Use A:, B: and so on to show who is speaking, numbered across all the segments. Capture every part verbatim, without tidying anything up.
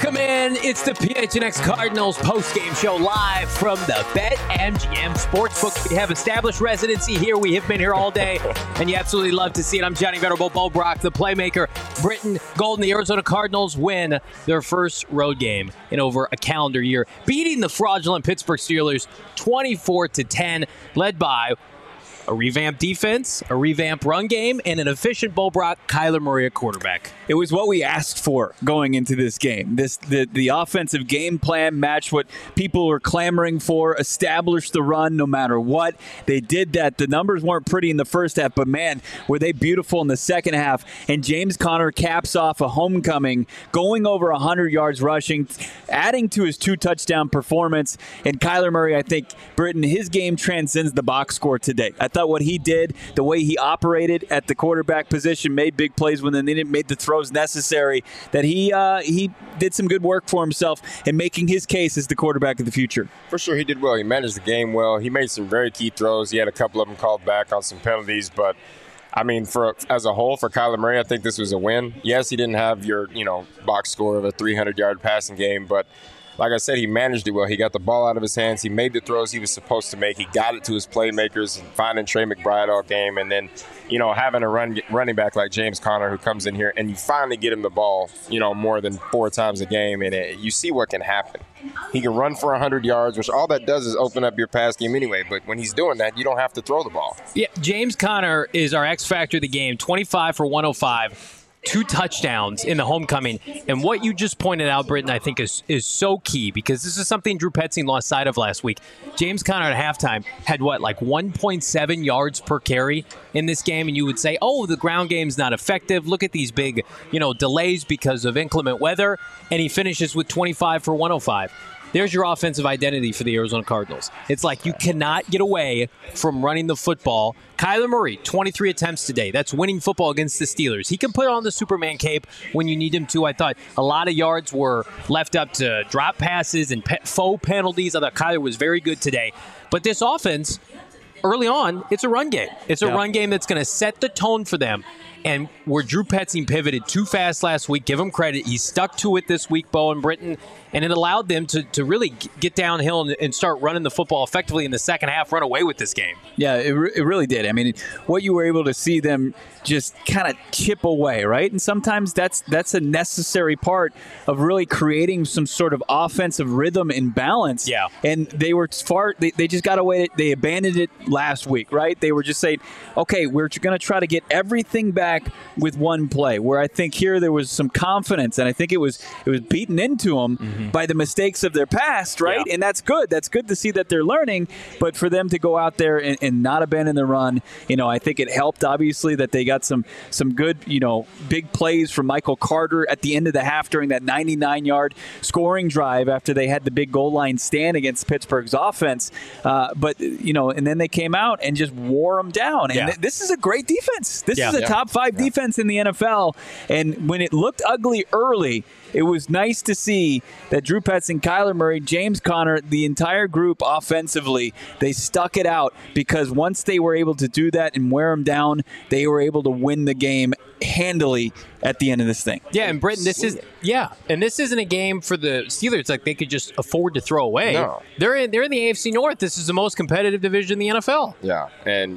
A: Welcome in. It's the P H N X Cardinals postgame show live from the BetMGM Sportsbook. We have established residency here. We have been here all day, and you absolutely love to see it. I'm Johnny Venerable, Bo Brock, the playmaker. Britton Golden, the Arizona Cardinals win their first road game in over a calendar year, beating the fraudulent Pittsburgh Steelers twenty-four to ten, led by a revamped defense, a revamped run game, and an efficient Bo Brock, Kyler Murray at quarterback.
B: It was what we asked for going into this game. This the, the offensive game plan matched what people were clamoring for, established the run no matter what. They did that. The numbers weren't pretty in the first half, but man, were they beautiful in the second half. And James Conner caps off a homecoming, going over one hundred yards rushing, adding to his two-touchdown performance. And Kyler Murray, I think, Britton, his game transcends the box score today. I thought what he did, the way he operated at the quarterback position, made big plays when they didn't made the throws necessary, that he uh, he did some good work for himself in making his case as the quarterback of the future.
C: For sure, he did well. He managed the game well. He made some very key throws. He had a couple of them called back on some penalties, but I mean, for as a whole, for Kyler Murray, I think this was a win. Yes, he didn't have your, you know, box score of a three hundred yard passing game, but like I said, he managed it well. He got the ball out of his hands. He made the throws he was supposed to make. He got it to his playmakers, and finding Trey McBride all game. And then, you know, having a run, running back like James Conner who comes in here and you finally get him the ball, you know, more than four times a game. And it, you see what can happen. He can run for one hundred yards, which all that does is open up your pass game anyway. But when he's doing that, you don't have to throw the ball.
A: Yeah, James Conner is our X factor of the game, twenty-five for one oh five. Two touchdowns in the homecoming. And what you just pointed out, Britton, I think is is so key, because this is something Drew Petzing lost sight of last week. James Conner at halftime had, what, like one point seven yards per carry in this game, and you would say, oh, the ground game's not effective. Look at these big, you know, delays because of inclement weather. And he finishes with twenty-five for one oh five. There's your offensive identity for the Arizona Cardinals. It's like you cannot get away from running the football. Kyler Murray, twenty-three attempts today. That's winning football against the Steelers. He can put on the Superman cape when you need him to. I thought a lot of yards were left up to drop passes and pe- faux penalties. I thought Kyler was very good today. But this offense, early on, it's a run game. It's a yeah. run game that's going to set the tone for them. And where Drew Petzing pivoted too fast last week, give him credit. He stuck to it this week, Bo and Britton, and it allowed them to, to really get downhill and, and start running the football effectively in the second half, run away with this game.
B: Yeah, it, re- it really did. I mean, what you were able to see them just kind of chip away, right? And sometimes that's that's a necessary part of really creating some sort of offensive rhythm and balance.
A: Yeah.
B: And they were far, they, they just got away, they abandoned it last week, right? They were just saying, okay, we're going to try to get everything back with one play, where I think here there was some confidence, and I think it was it was beaten into them mm-hmm. by the mistakes of their past, right? Yeah. And that's good. That's good to see that they're learning, but for them to go out there and, and not abandon the run, you know, I think it helped, obviously, that they got some some good, you know, big plays from Michael Carter at the end of the half during that ninety-nine yard scoring drive after they had the big goal line stand against Pittsburgh's offense. Uh, but, you know, and then they came out and just wore them down. And yeah. th- this is a great defense. This yeah. is a yeah. top five yeah. defense in the N F L, and when it looked ugly early, it was nice to see that Drew Petzing, Kyler Murray, James Conner, the entire group offensively, they stuck it out, because once they were able to do that and wear them down, they were able to win the game handily at the end of this thing.
A: Yeah, and Britton, this is yeah, and this isn't a game for the Steelers like they could just afford to throw away.
C: No.
A: They're in they're in the A F C North. This is the most competitive division in the N F L.
C: Yeah, and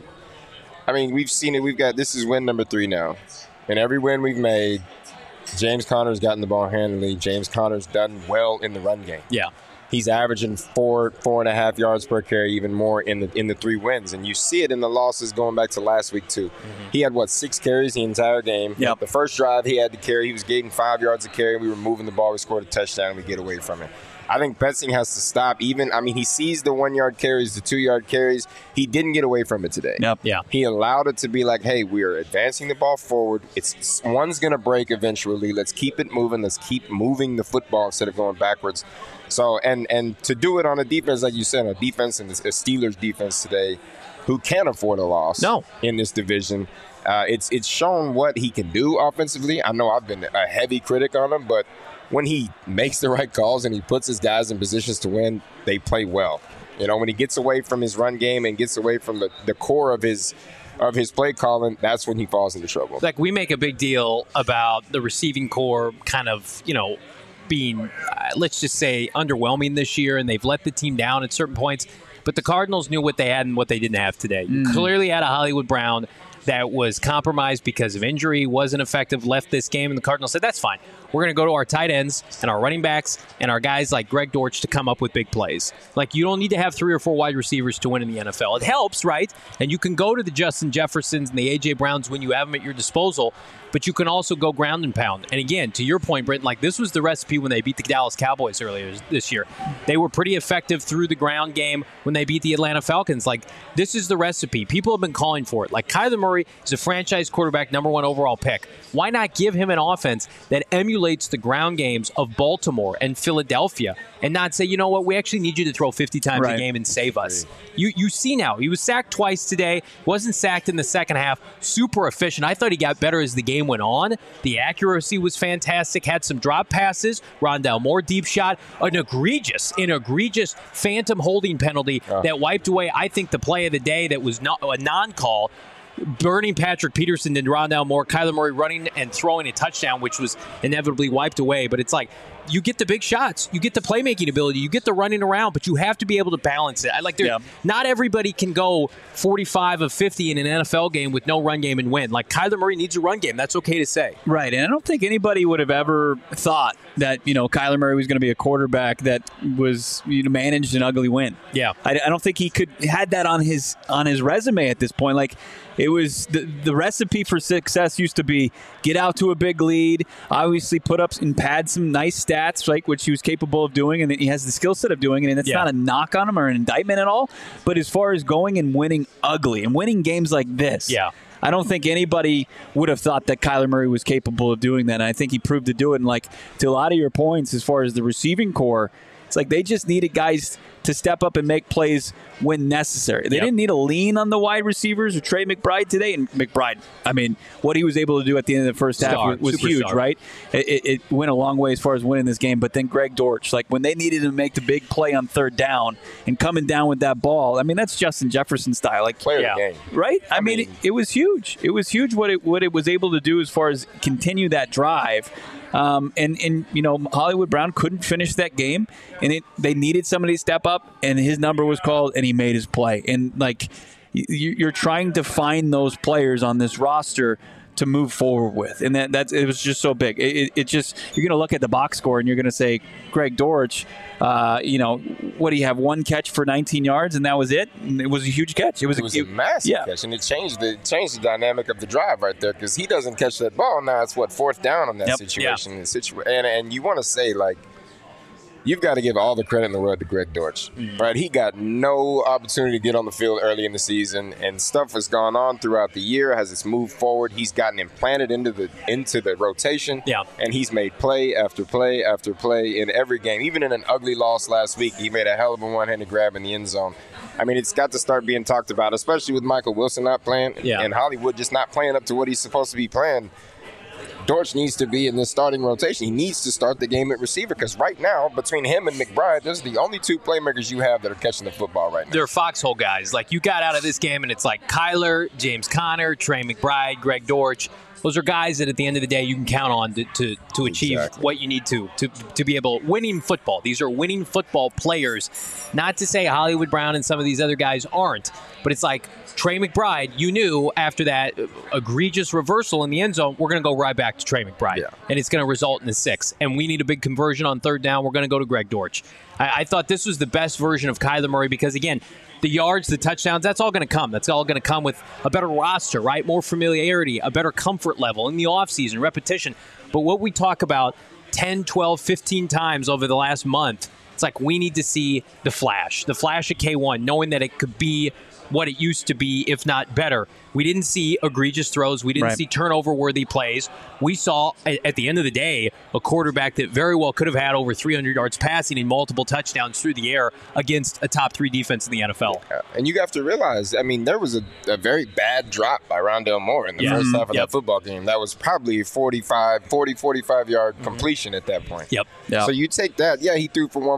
C: I mean, we've seen it. We've got this is win number three now. And every win we've made, James Conner's gotten the ball handily. James Conner's done well in the run game.
A: Yeah.
C: He's averaging four, four and a half yards per carry, even more in the in the three wins. And you see it in the losses going back to last week, too. Mm-hmm. He had, what, six carries the entire game.
B: Yep.
C: The first drive he had to carry, he was getting five yards a carry. We were moving the ball. We scored a touchdown, and we get away from it. I think Petzing has to stop even. I mean, he sees the one-yard carries, the two-yard carries. He didn't get away from it today.
B: Yep.
A: Yeah.
C: He allowed it to be like, hey, we are advancing the ball forward. It's one's going to break eventually. Let's keep it moving. Let's keep moving the football instead of going backwards. So, and and to do it on a defense, like you said, a defense and a Steelers defense today who can't afford a loss
A: no.
C: in this division. Uh, it's it's shown what he can do offensively. I know I've been a heavy critic on him, but when he makes the right calls and he puts his guys in positions to win, they play well. You know, when he gets away from his run game and gets away from the, the core of his of his play calling, that's when he falls into trouble.
A: Like, we make a big deal about the receiving core kind of, you know, being, uh, let's just say, underwhelming this year, and they've let the team down at certain points. But the Cardinals knew what they had and what they didn't have today. You
B: Mm.
A: clearly had a Hollywood Brown that was compromised because of injury, wasn't effective, left this game, and the Cardinals said, that's fine. We're going to go to our tight ends and our running backs and our guys like Greg Dortch to come up with big plays. Like, you don't need to have three or four wide receivers to win in the N F L. It helps, right? And you can go to the Justin Jeffersons and the A J. Browns when you have them at your disposal, but you can also go ground and pound. And again, to your point, Britton, like, this was the recipe when they beat the Dallas Cowboys earlier this year. They were pretty effective through the ground game when they beat the Atlanta Falcons. Like, this is the recipe. People have been calling for it. Like, Kyler Murray is a franchise quarterback, number one overall pick. Why not give him an offense that emulates the ground games of Baltimore and Philadelphia and not say, you know what, we actually need you to throw fifty times
B: right.
A: a game and save us. You you see now, he was sacked twice today, wasn't sacked in the second half, super efficient. I thought he got better as the game went on. The accuracy was fantastic, had some drop passes, Rondale Moore deep shot, an egregious, an egregious phantom holding penalty uh. that wiped away, I think, the play of the day that was not a non-call. Burning Patrick Peterson and Rondale Moore, Kyler Murray running and throwing a touchdown, which was inevitably wiped away. But it's like, you get the big shots, you get the playmaking ability, you get the running around, but you have to be able to balance it. I like, yeah. Not everybody can go forty-five of fifty in an N F L game with no run game and win. Like, Kyler Murray needs a run game. That's okay to say.
B: Right, and I don't think anybody would have ever thought that, you know, Kyler Murray was going to be a quarterback that was, you know, managed an ugly win.
A: Yeah,
B: I, I don't think he could had that on his on his resume at this point. Like, it was the the recipe for success used to be get out to a big lead, obviously put up and pad some nice stats, like which he was capable of doing, and he has the skill set of doing it. And that's yeah. not a knock on him or an indictment at all. But as far as going and winning ugly and winning games like this,
A: yeah.
B: I don't think anybody would have thought that Kyler Murray was capable of doing that. And I think he proved to do it. And like, to a lot of your points, as far as the receiving core, it's like they just needed guys to step up and make plays when necessary. They yep. didn't need to lean on the wide receivers or Trey McBride today. And McBride, I mean, what he was able to do at the end of the first half
A: star,
B: was, was huge,
A: star.
B: right? It, it went a long way as far as winning this game. But then Greg Dortch, like when they needed to make the big play on third down and coming down with that ball, I mean, that's Justin Jefferson style. Like,
C: Player
B: yeah.
C: of the game.
B: Right? I,
C: I
B: mean,
C: mean
B: it, it was huge. It was huge what it what it was able to do as far as continue that drive. Um, and, and, you know, Hollywood Brown couldn't finish that game, and it they needed somebody to step up, and his number was called, and he made his play. And, like, you're trying to find those players on this roster to move forward with. And that that's it was just so big. It, it, it just, you're going to look at the box score, and you're going to say, Greg Dortch, uh, you know, what do you have, one catch for nineteen yards, and that was it? And it was a huge catch. It was,
C: it
B: a,
C: was a,
B: it,
C: massive
B: yeah.
C: catch, and it changed the changed the dynamic of the drive right there, because he doesn't catch that ball. Now it's, what, fourth down on that
B: yep.
C: situation. Yeah. Situa- and, and you want to say, like, you've got to give all the credit in the world to Greg Dortch, mm. right? He got no opportunity to get on the field early in the season, and stuff has gone on throughout the year as it's moved forward. He's gotten implanted into the into the rotation,
A: yeah.
C: and he's made play after play after play in every game. Even in an ugly loss last week, he made a hell of a one-handed grab in the end zone. I mean, it's got to start being talked about, especially with Michael Wilson not playing
A: yeah.
C: and Hollywood just not playing up to what he's supposed to be playing. Dortch needs to be in this starting rotation. He needs to start the game at receiver, because right now, between him and McBride, those are the only two playmakers you have that are catching the football right now.
A: They're foxhole guys. Like, you got out of this game, and it's like Kyler, James Conner, Trey McBride, Greg Dortch. Those are guys that at the end of the day you can count on to to, to achieve
C: exactly.
A: what you need to, to to be able winning football. These are winning football players. Not to say Hollywood Brown and some of these other guys aren't, but it's like Trey McBride, you knew after that egregious reversal in the end zone, we're going to go right back to Trey McBride,
C: yeah.
A: and it's going to result in a six. And we need a big conversion on third down. We're going to go to Greg Dortch. I, I thought this was the best version of Kyler Murray because, again, the yards, the touchdowns, that's all going to come. That's all going to come with a better roster, right? More familiarity, a better comfort level in the offseason, repetition. But what we talk about ten, twelve, fifteen times over the last month, it's like we need to see the flash, the flash of K one, knowing that it could be what it used to be, if not better. We didn't see egregious throws. We didn't
B: right.
A: see turnover-worthy plays. We saw, at the end of the day, a quarterback that very well could have had over three hundred yards passing and multiple touchdowns through the air against a top three defense in the N F L.
C: Yeah. And you have to realize, I mean, there was a, a very bad drop by Rondale Moore in the
A: yeah.
C: first
A: mm-hmm.
C: half of
A: yep.
C: that football game. That was probably forty, forty, forty-five yard mm-hmm. completion at that point.
A: Yep.
B: yep.
C: So you take that. Yeah, he threw for one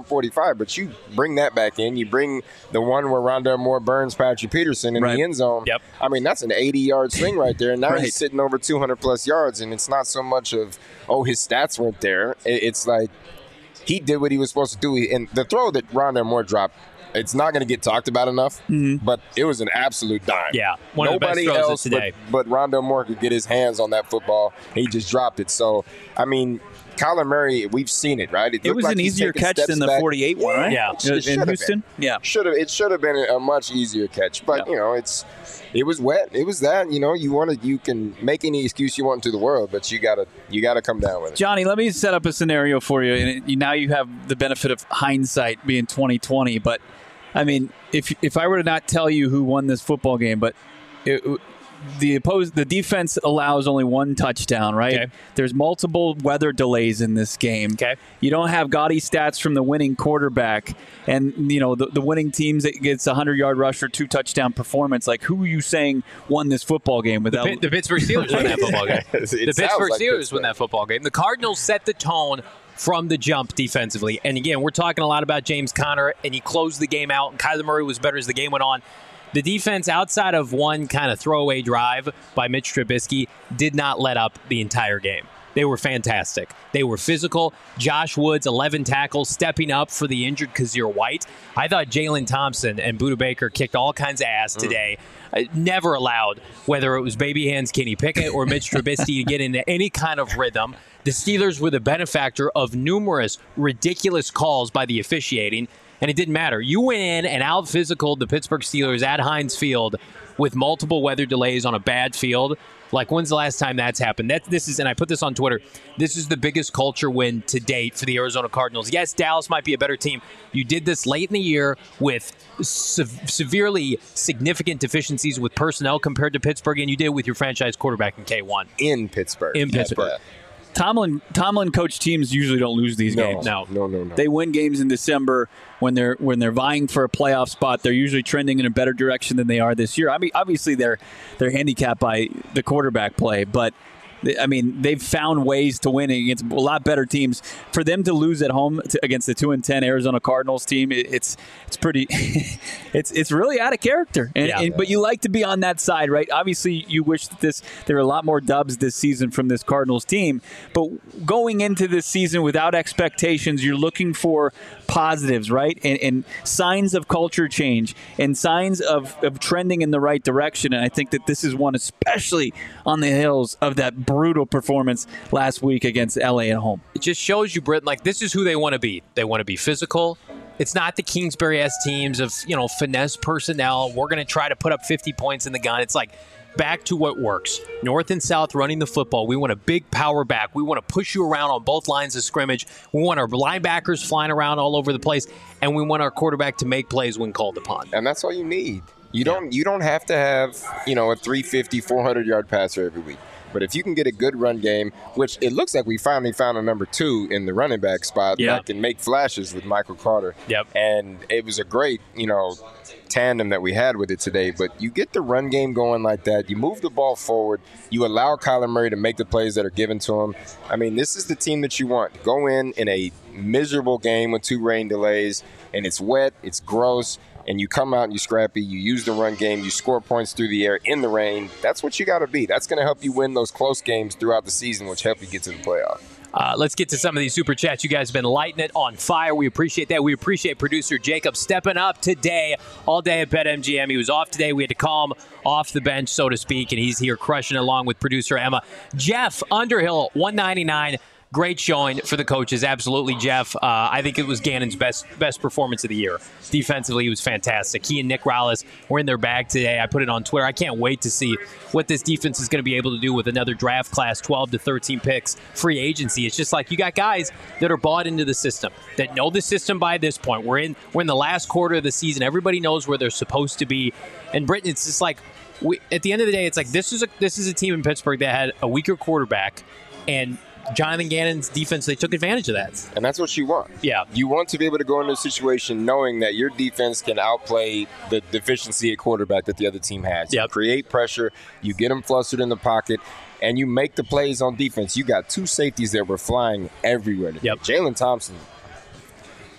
C: forty-five, but you bring that back in. You bring the one where Rondale Moore burns Patrick Peterson in
B: Right.
C: the end zone.
A: Yep.
C: I mean, that's an eighty-yard swing right there. And now
B: Right.
C: he's sitting over two hundred plus yards, and it's not so much of, oh, his stats weren't there. It- It's like he did what he was supposed to do. And the throw that Rondale Moore dropped, it's not going to get talked about enough,
B: Mm-hmm.
C: but it was an absolute dime.
A: Yeah, one of the best
C: Nobody
A: throws of
C: else
A: today.
C: But, but Rondale Moore could get his hands on that football. He just dropped it. So, I mean, Kyler Murray, we've seen it, right?
B: It
C: looked
B: was
C: like
B: an
C: he's
B: easier
C: taking
B: catch
C: steps
B: than the
C: back.
B: forty-eight one, right?
A: Yeah.
C: It
B: in
C: should have
B: Houston.
C: been.
B: Yeah.
C: Should have. It should have been a much easier catch, but
B: Yeah.
C: you know, it's it was wet. It was that. You know, you want to. You can make any excuse you want to the world, but you gotta you gotta come down with it.
B: Johnny, let me set up a scenario for you. And it, now you have the benefit of hindsight being twenty twenty. But, I mean, if if I were to not tell you who won this football game, but it, the opposed the defense allows only one touchdown, right?
A: Okay.
B: There's multiple weather delays in this game.
A: Okay.
B: You don't have gaudy stats from the winning quarterback, and you know the, the winning teams that gets a hundred-yard rush or two touchdown performance. Like, who are you saying won this football game without?
A: The, the Pittsburgh Steelers won that football game.
C: It
A: The
C: sounds
A: Pittsburgh
C: like
A: Steelers
C: Pittsburgh.
A: won that football game. The Cardinals set the tone from the jump defensively. And again, we're talking a lot about James Conner, and he closed the game out, and Kyler Murray was better as the game went on. The defense, outside of one kind of throwaway drive by Mitch Trubisky, did not let up the entire game. They were fantastic. They were physical. Josh Woods, eleven tackles, stepping up for the injured Kazir White. I thought Jalen Thompson and Budda Baker kicked all kinds of ass today. I never allowed, whether it was baby hands Kenny Pickett or Mitch Trubisky, to get into any kind of rhythm. The Steelers were the benefactor of numerous ridiculous calls by the officiating, and it didn't matter. You went in and out-physicaled the Pittsburgh Steelers at Heinz Field with multiple weather delays on a bad field. Like, when's the last time that's happened? That this is, and I put this on Twitter, this is the biggest culture win to date for the Arizona Cardinals. Yes, Dallas might be a better team. You did this late in the year with se- severely significant deficiencies with personnel compared to Pittsburgh, and you did it with your franchise quarterback in K one.
C: in Pittsburgh.
A: In Pittsburgh.
C: Yeah.
B: Tomlin Tomlin coach teams usually don't lose these
C: No,
B: games.
A: No.
C: no, no, no.
B: They win games in December when they're when they're vying for a playoff spot. They're usually trending in a better direction than they are this year. I mean, obviously they're they're handicapped by the quarterback play, but they, I mean they've found ways to win against a lot better teams. For them to lose at home to, against the two and ten Arizona Cardinals team, it, it's it's pretty it's it's really out of character. And,
A: Yeah.
B: and but you like to be on that side, right? Obviously, you wish that this there were a lot more dubs this season from this Cardinals team, but going into this season without expectations, you're looking for positives, right? And, and signs of culture change and signs of, of trending in the right direction. And I think that this is one, especially on the heels of that brutal performance last week against L A at home.
A: It just shows you, Britain, like, this is who they want to be. They want to be physical. It's not the Kingsbury-esque teams of, you know, finesse personnel. We're going to try to put up fifty points in the gun. It's like, back to what works. North and South running the football. We want a big power back. We want to push you around on both lines of scrimmage. We want our linebackers flying around all over the place, and we want our quarterback to make plays when called upon.
C: And that's all you need. You don't you don't have to have, you know, a three fifty, four hundred yard passer every week. But if you can get a good run game, which it looks like we finally found a number two in the running back spot
A: Yeah.
C: that can make flashes with Michael Carter.
A: Yep.
C: And it was a great, you know, tandem that we had with it today. But you get the run game going like that. You move the ball forward. You allow Kyler Murray to make the plays that are given to him. I mean, this is the team that you want. Go in in a miserable game with two rain delays, and it's wet, it's gross, and you come out and you scrappy, you use the run game, you score points through the air in the rain. That's what you got to be. That's going to help you win those close games throughout the season, which help you get to the playoff.
A: Uh, let's get to some of these super chats. You guys have been lighting it on fire. We appreciate that. We appreciate producer Jacob stepping up today, all day at BetMGM. He was off today. We had to call him off the bench, so to speak, and he's here crushing it along with producer Emma. Jeff Underhill, one ninety-nine. Great showing for the coaches. Absolutely, Jeff. Uh, I think it was Gannon's best best performance of the year. Defensively, he was fantastic. He and Nick Rallis were in their bag today. I put it on Twitter. I can't wait to see what this defense is going to be able to do with another draft class, twelve to thirteen picks, free agency. It's just like you got guys that are bought into the system, that know the system by this point. We're in we're in the last quarter of the season. Everybody knows where they're supposed to be. And Britain, it's just like, we, at the end of the day, it's like this is a this is a team in Pittsburgh that had a weaker quarterback, and Jonathan Gannon's defense, they took advantage of that.
C: And that's what you want.
A: Yeah.
C: You want to be able to go into a situation knowing that your defense can outplay the deficiency at quarterback that the other team has. You
A: Yep.
C: create pressure, you get them flustered in the pocket, and you make the plays on defense. You got two safeties that were flying everywhere today.
A: Yep.
C: Jalen Thompson,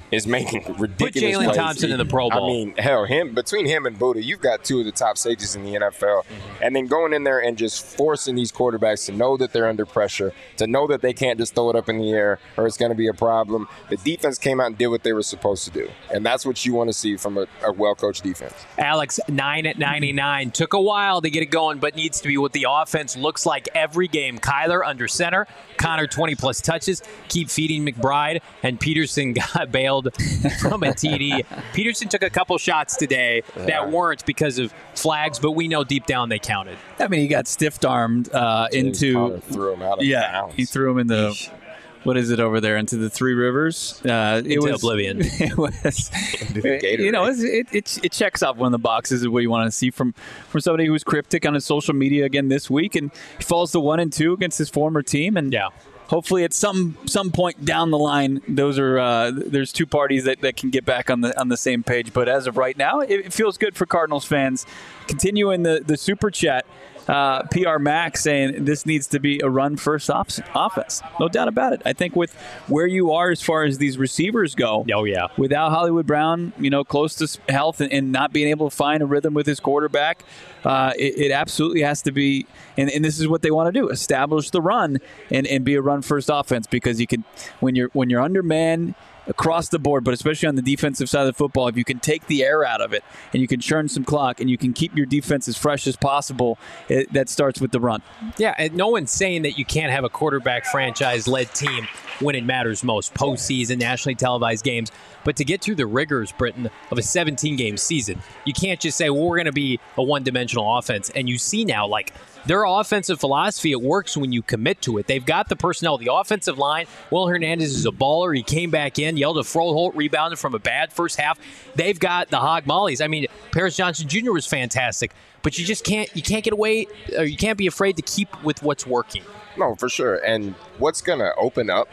C: is making ridiculous
A: Put Jalen
C: plays.
A: Thompson in the Pro Bowl.
C: I mean, hell, him between him and Buddha, you've got two of the top safeties in the N F L. Mm-hmm. And then going in there and just forcing these quarterbacks to know that they're under pressure, to know that they can't just throw it up in the air or it's going to be a problem. The defense came out and did what they were supposed to do. And that's what you want to see from a, a well-coached defense.
A: Alex, nine at ninety-nine. Took a while to get it going, but needs to be what the offense looks like every game. Kyler under center. Connor, twenty-plus touches. Keep feeding McBride. And Peterson got bailed from a T D. Peterson took a couple shots today yeah. that weren't because of flags, but we know deep down they counted.
B: I mean, he got stiff-armed uh, into –
C: threw him out of
B: yeah,
C: bounds.
B: He threw him in the – what is it over there? Into the Three Rivers? Uh, it
A: Into
B: was,
A: oblivion.
B: It was, you know, it, it it checks off one of the boxes of what you want to see from, from somebody who was cryptic on his social media again this week, and he falls to one and two against his former team, and
A: yeah.
B: hopefully at some some point down the line, those are uh, there's two parties that, that can get back on the on the same page. But as of right now, it, it feels good for Cardinals fans. Continuing the the super chat. Uh, P R Max saying this needs to be a run-first op- offense. No doubt about it. I think with where you are as far as these receivers go,
A: oh yeah,
B: without Hollywood Brown, you know, close to health and, and not being able to find a rhythm with his quarterback, uh, it, it absolutely has to be, and, and this is what they want to do: establish the run and, and be a run-first offense, because you can, when you're when you're undermanned across the board, but especially on the defensive side of the football, if you can take the air out of it and you can churn some clock and you can keep your defense as fresh as possible, it, that starts with the run.
A: Yeah, and no one's saying that you can't have a quarterback franchise-led team when it matters most, postseason, nationally televised games. But to get through the rigors, Britton, of a seventeen-game season, you can't just say, well, we're going to be a one-dimensional offense. And you see now, like, their offensive philosophy, it works when you commit to it. They've got the personnel. The offensive line, Will Hernandez is a baller. He came back in, yelled at Froholt, rebounded from a bad first half. They've got the hog mollies. I mean, Paris Johnson Junior was fantastic. But you just can't you can't get away, or you can't be afraid to keep with what's working.
C: No, for sure. And what's going to open up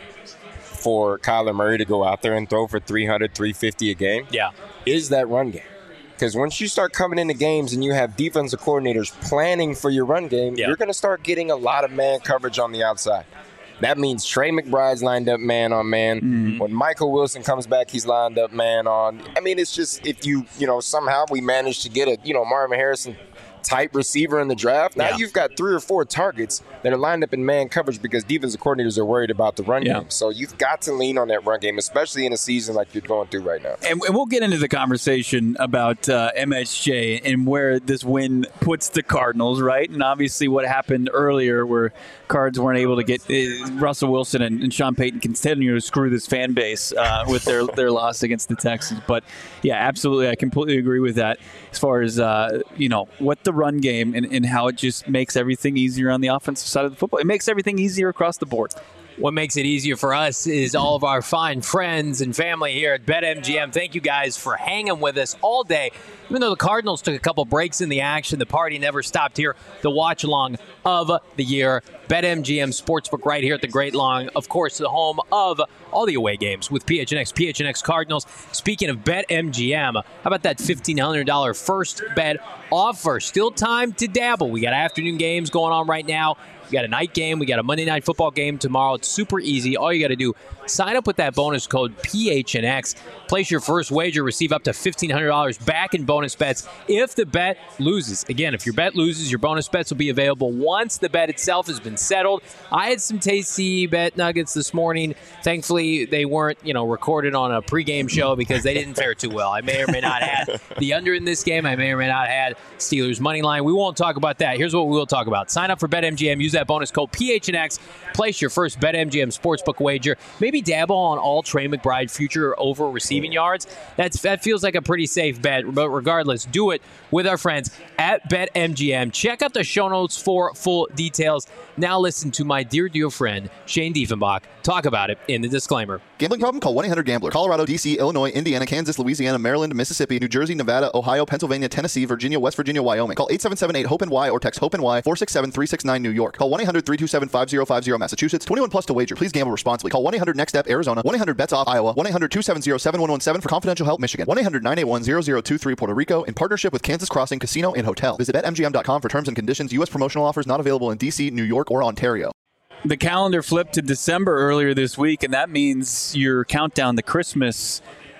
C: for Kyler Murray to go out there and throw for three hundred, three fifty a game
A: yeah.
C: is that run game. Because once you start coming into games and you have defensive coordinators planning for your run game, yeah. you're going to start getting a lot of man coverage on the outside. That means Trey McBride's lined up man on man. Mm-hmm. When Michael Wilson comes back, he's lined up man on. I mean, it's just if you, you know, somehow we manage to get a, you know, Marvin Harrison type receiver in the draft. Now yeah. you've got three or four targets that are lined up in man coverage because defensive coordinators are worried about the run yeah. game. So you've got to lean on that run game, especially in a season like you're going through right now.
B: And, and we'll get into the conversation about uh, M S J and where this win puts the Cardinals, right? And obviously what happened earlier where Cards weren't able to get uh, Russell Wilson and, and Sean Payton continue to screw this fan base uh, with their, their loss against the Texans. But, yeah, absolutely. I completely agree with that as far as, uh, you know, what the run game and, and how it just makes everything easier on the offensive side of the football. It makes everything easier across the board.
A: What makes it easier for us is all of our fine friends and family here at BetMGM. Thank you guys for hanging with us all day. Even though the Cardinals took a couple breaks in the action, the party never stopped here. The watch-along of the year. BetMGM Sportsbook right here at the Great Long. Of course, the home of all the away games with P H N X, P H N X Cardinals. Speaking of BetMGM, how about that fifteen hundred dollars first bet offer? Still time to dabble. We got afternoon games going on right now. We got a night game. We got a Monday night football game tomorrow. It's super easy. All you got to do, sign up with that bonus code P H N X. Place your first wager. Receive up to fifteen hundred dollars back in bonus bets if the bet loses. Again, if your bet loses, your bonus bets will be available once the bet itself has been settled. I had some tasty bet nuggets this morning. Thankfully, they weren't, you know, recorded on a pregame show because they didn't fare too well. I may or may not have the under in this game. I may or may not have Steelers money line. We won't talk about that. Here's what we will talk about. Sign up for BetMGM. Use that bonus code P H N X. Place your first BetMGM Sportsbook wager. Maybe dabble on all Trey McBride future over receiving yards. That's That feels like a pretty safe bet. But regardless, do it with our friends at BetMGM. Check out the show notes for full details. Now listen to my dear, dear friend, Shane Diefenbach, talk about it in the disclaimer.
D: Gambling problem? Call one eight hundred gambler. Colorado, D C, Illinois, Indiana, Kansas, Louisiana, Maryland, Mississippi, New Jersey, Nevada, Ohio, Pennsylvania, Tennessee, Virginia, West Virginia, Wyoming. Call eight seven seven eight hope N Y or text HOPE-N Y four six seven three six nine New York. Call one eight hundred three two seven five zero five zero Massachusetts. twenty-one plus to wager. Please gamble responsibly. Call one eight hundred next step Arizona. one eight hundred bets off Iowa. one eight hundred two seven zero seven one one seven for confidential help Michigan. one eight hundred nine eight one zero zero two three Puerto Rico in partnership with Kansas Crossing Casino and Hotel. Visit bet M G M dot com for terms and conditions. U S promotional offers not available in D C, New York, or Ontario.
B: The calendar flipped to December earlier this week, and that means your countdown to Christmas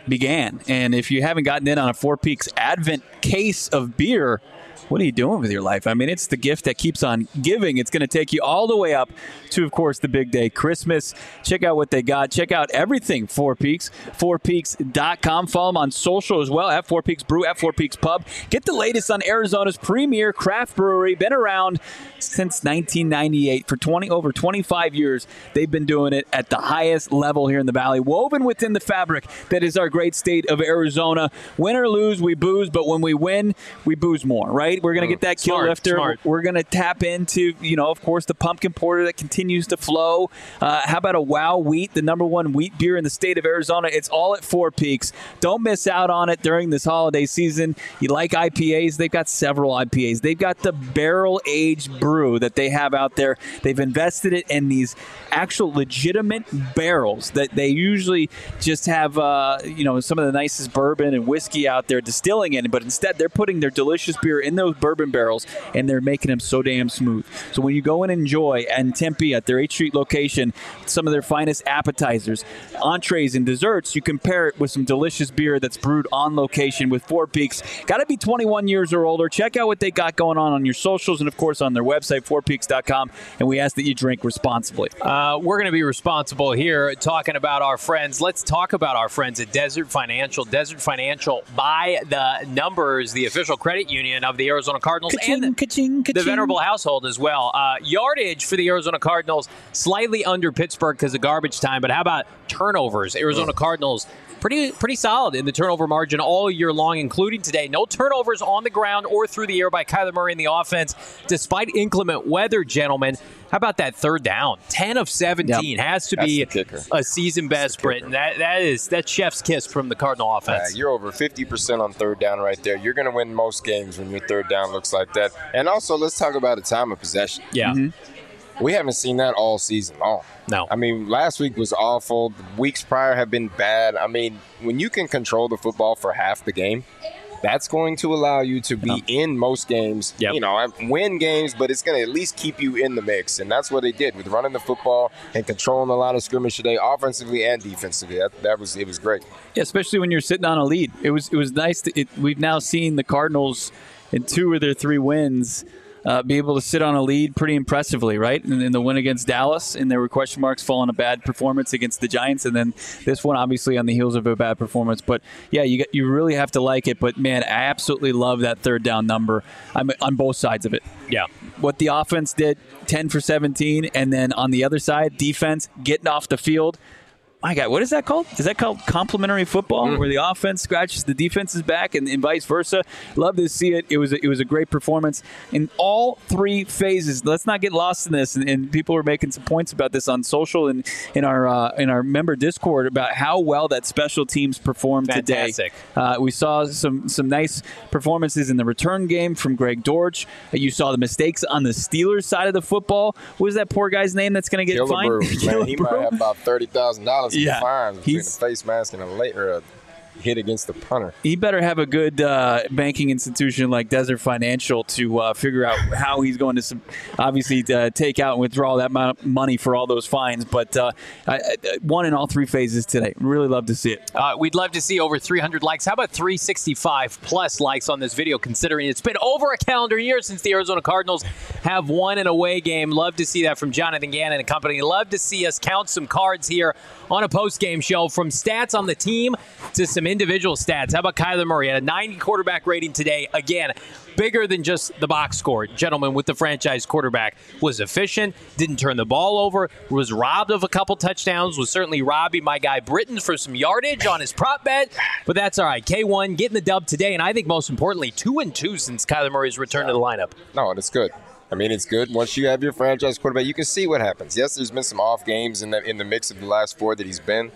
B: began. And if you haven't gotten in on a Four Peaks Advent case of beer, what are you doing with your life? I mean, it's the gift that keeps on giving. It's going to take you all the way up to, of course, the big day, Christmas. Check out what they got. Check out everything Four Peaks, four peaks dot com. Follow them on social as well, at Four Peaks Brew, at Four Peaks Pub. Get the latest on Arizona's premier craft brewery. Been around since nineteen ninety-eight. For twenty over twenty-five years, they've been doing it at the highest level here in the Valley, woven within the fabric that is our great state of Arizona. Win or lose, we booze, but when we win, we booze more, right? We're going to get that kill
A: Smart,
B: lifter.
A: smart.
B: We're going to tap into, you know, of course, the pumpkin porter that continues to flow. Uh, how about a Wow Wheat, the number one wheat beer in the state of Arizona? It's all at Four Peaks. Don't miss out on it during this holiday season. You like I P As? They've got several I P As. They've got the barrel-aged brew that they have out there. They've invested it in these actual legitimate barrels that they usually just have, uh, you know, some of the nicest bourbon and whiskey out there distilling in, but instead they're putting their delicious beer in those bourbon barrels, and they're making them so damn smooth. So when you go and enjoy in Tempe at their eighth Street location some of their finest appetizers, entrees, and desserts, you compare it with some delicious beer that's brewed on location with Four Peaks. Got to be twenty-one years or older. Check out what they got going on on your socials and, of course, on their website, four peaks dot com, and we ask that you drink responsibly.
A: Uh, we're going to be responsible here talking about our friends. Let's talk about our friends at Desert Financial. Desert Financial, by the numbers, the official credit union of the Arizona Cardinals
B: Ka-ching,
A: and
B: ka-ching,
A: the
B: ka-ching.
A: Venerable household as well. Uh, yardage for the Arizona Cardinals, slightly under Pittsburgh because of garbage time, but how about turnovers? Arizona Cardinals, pretty pretty solid in the turnover margin all year long, including today. No turnovers on the ground or through the air by Kyler Murray in the offense, despite inclement weather, gentlemen. How about that third down? ten of seventeen.
B: Yep.
A: Has to
C: That's
A: be
C: the kicker.
A: a season best, Britton. That, that is that's chef's kiss from the Cardinal offense.
C: Yeah, you're over fifty percent on third down right there. You're going to win most games when your third down looks like that. And also, let's talk about a time of possession.
A: Yeah.
B: Mm-hmm.
C: We haven't seen that all season long.
A: No.
C: I mean, last week was awful. The weeks prior have been bad. I mean, when you can control the football for half the game, that's going to allow you to be in most games,
A: Yep.
C: you know, win games, but it's going to at least keep you in the mix. And that's what they did with running the football and controlling a lot of scrimmage today, offensively and defensively. That, that was it was great.
B: Yeah, especially when you're sitting on a lead. It was it was nice. To, it, we've now seen the Cardinals in two of their three wins uh, be able to sit on a lead pretty impressively, right? And in the win against Dallas, and there were question marks following a bad performance against the Giants, and then this one obviously on the heels of a bad performance. But yeah, you got, you really have to like it. But man, I absolutely love that third down number. I'm on both sides of it.
A: Yeah.
B: What the offense did, ten for seventeen, and then on the other side, defense getting off the field. My God, what is that called? Is that called complementary football, mm. where the offense scratches the defense's back and, and vice versa? Love to see it. It was a, it was a great performance in all three phases. Let's not get lost in this. And, and people are making some points about this on social and in our uh, in our member Discord about how well that special teams performed
A: Fantastic.
B: today. Uh, we saw some some nice performances in the return game from Greg Dortch. You saw the mistakes on the Steelers side of the football. What was that poor guy's name that's going to get
C: Killebrew,
B: fined?
C: man, he might have about thirty thousand dollars in
B: Yeah,
C: fines between
B: he's-
C: a face mask and a late or a hit against the punter.
B: He better have a good uh, banking institution like Desert Financial to uh, figure out how he's going to sub- obviously uh, take out and withdraw that amount of money for all those fines. But uh, I, I, one in all three phases today. Really love to see it.
A: Uh, we'd love to see over three hundred likes. How about three sixty-five plus likes on this video, considering it's been over a calendar year since the Arizona Cardinals have won an away game. Love to see that from Jonathan Gannon and company. Love to see us count some cards here on a post-game show, from stats on the team to some individual stats. How about Kyler Murray? Had a ninety quarterback rating today. Again, bigger than just the box score. Gentlemen, with the franchise quarterback, was efficient, didn't turn the ball over, was robbed of a couple touchdowns, was certainly robbing my guy Britton for some yardage on his prop bet, but that's all right. K one getting the dub today, and I think most importantly, two and two since Kyler Murray's return to the lineup.
C: No, and it's good. I mean, it's good. Once you have your franchise quarterback, you can see what happens. Yes, there's been some off games in the in the mix of the last four that he's been,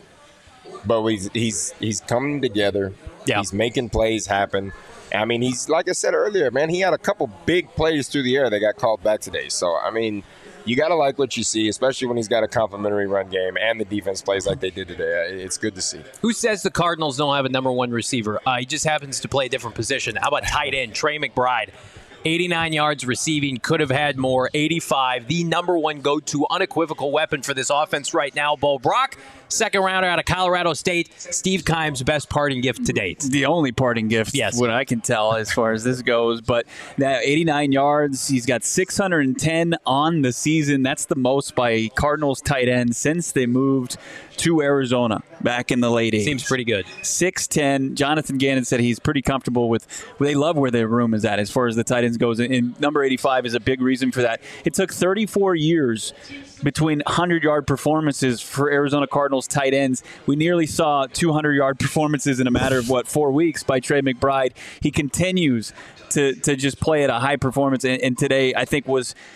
C: but he's he's he's coming together.
A: Yeah.
C: He's making plays happen. I mean, he's like I said earlier, man. He had a couple big plays through the air that got called back today. So I mean, you got to like what you see, especially when he's got a complimentary run game and the defense plays like they did today. It's good to see.
A: Who says the Cardinals don't have a number one receiver? Uh, he just happens to play a different position. How about tight end Trey McBride? eighty-nine yards receiving, could have had more. eighty-five, the number one go-to unequivocal weapon for this offense right now. Bo Brock, second rounder out of Colorado State. Steve Keim's best parting gift to date.
B: The only parting gift,
A: yes,
B: what I can tell as far as this goes. But now eighty-nine yards, he's got six hundred ten on the season. That's the most by Cardinals tight end since they moved to Arizona back in the late eighties.
A: Seems pretty good.
B: six ten. Jonathan Gannon said he's pretty comfortable with, well, they love where their room is at as far as the tight ends goes. And number eighty-five is a big reason for that. It took thirty-four years between hundred-yard performances for Arizona Cardinals tight ends. We nearly saw two hundred-yard performances in a matter of, what, four weeks by Trey McBride. He continues to, to just play at a high performance. And, and today, I think, was –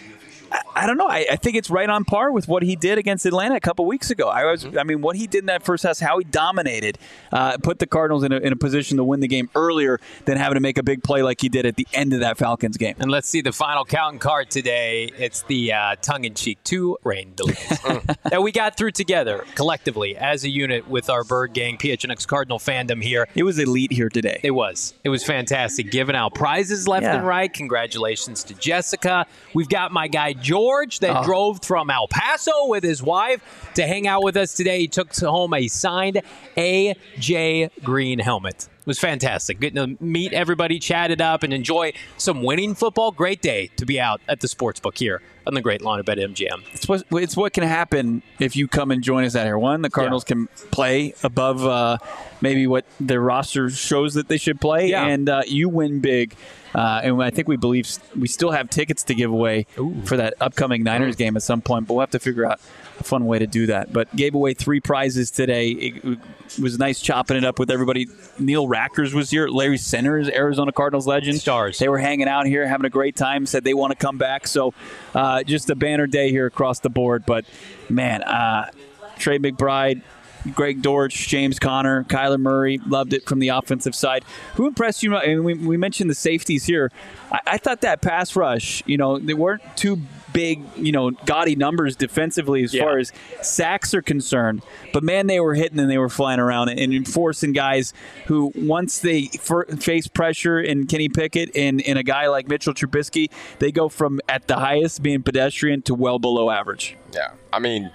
B: I don't know. I, I think it's right on par with what he did against Atlanta a couple weeks ago. I was, I mean, what he did in that first half, how he dominated, uh, put the Cardinals in a, in a position to win the game earlier than having to make a big play like he did at the end of that Falcons game.
A: And let's see the final count and card today. It's the uh, tongue-in-cheek two rain delays that we got through together collectively as a unit with our Bird Gang P H N X Cardinal fandom here.
B: It was elite here today.
A: It was. It was fantastic. Giving out prizes left
B: Yeah.
A: and right. Congratulations to Jessica. We've got my guy George that
B: Oh.
A: drove from El Paso with his wife to hang out with us today. He took home a signed A J Green helmet. It was fantastic. Getting to meet everybody, chat it up, and enjoy some winning football. Great day to be out at the sportsbook here on the Great Lawn at BetMGM.
B: It's what, it's what can happen if you come and join us out here. One, the Cardinals
A: Yeah.
B: can play above uh, maybe what their roster shows that they should play,
A: Yeah.
B: and uh, you win big. Uh, and I think we believe we still have tickets to give away
A: Ooh.
B: for that upcoming Niners game at some point, but we'll have to figure out a fun way to do that. But gave away three prizes today. It, it was nice chopping it up with everybody. Neil Rackers was here. Larry Centers, Arizona Cardinals legend.
A: Stars.
B: They were hanging out here, having a great time, said they want to come back. So uh, just a banner day here across the board. But, man, uh, Trey McBride, Greg Dortch, James Conner, Kyler Murray, loved it from the offensive side. Who impressed you? And we, we mentioned the safeties here. I, I thought that pass rush, you know, they weren't too big, you know, gaudy numbers defensively as
A: Yeah.
B: far as sacks are concerned. But, man, they were hitting and they were flying around and enforcing guys who, once they f- face pressure in Kenny Pickett and, and a guy like Mitchell Trubisky, they go from at the highest being pedestrian to well below average.
C: Yeah, I mean,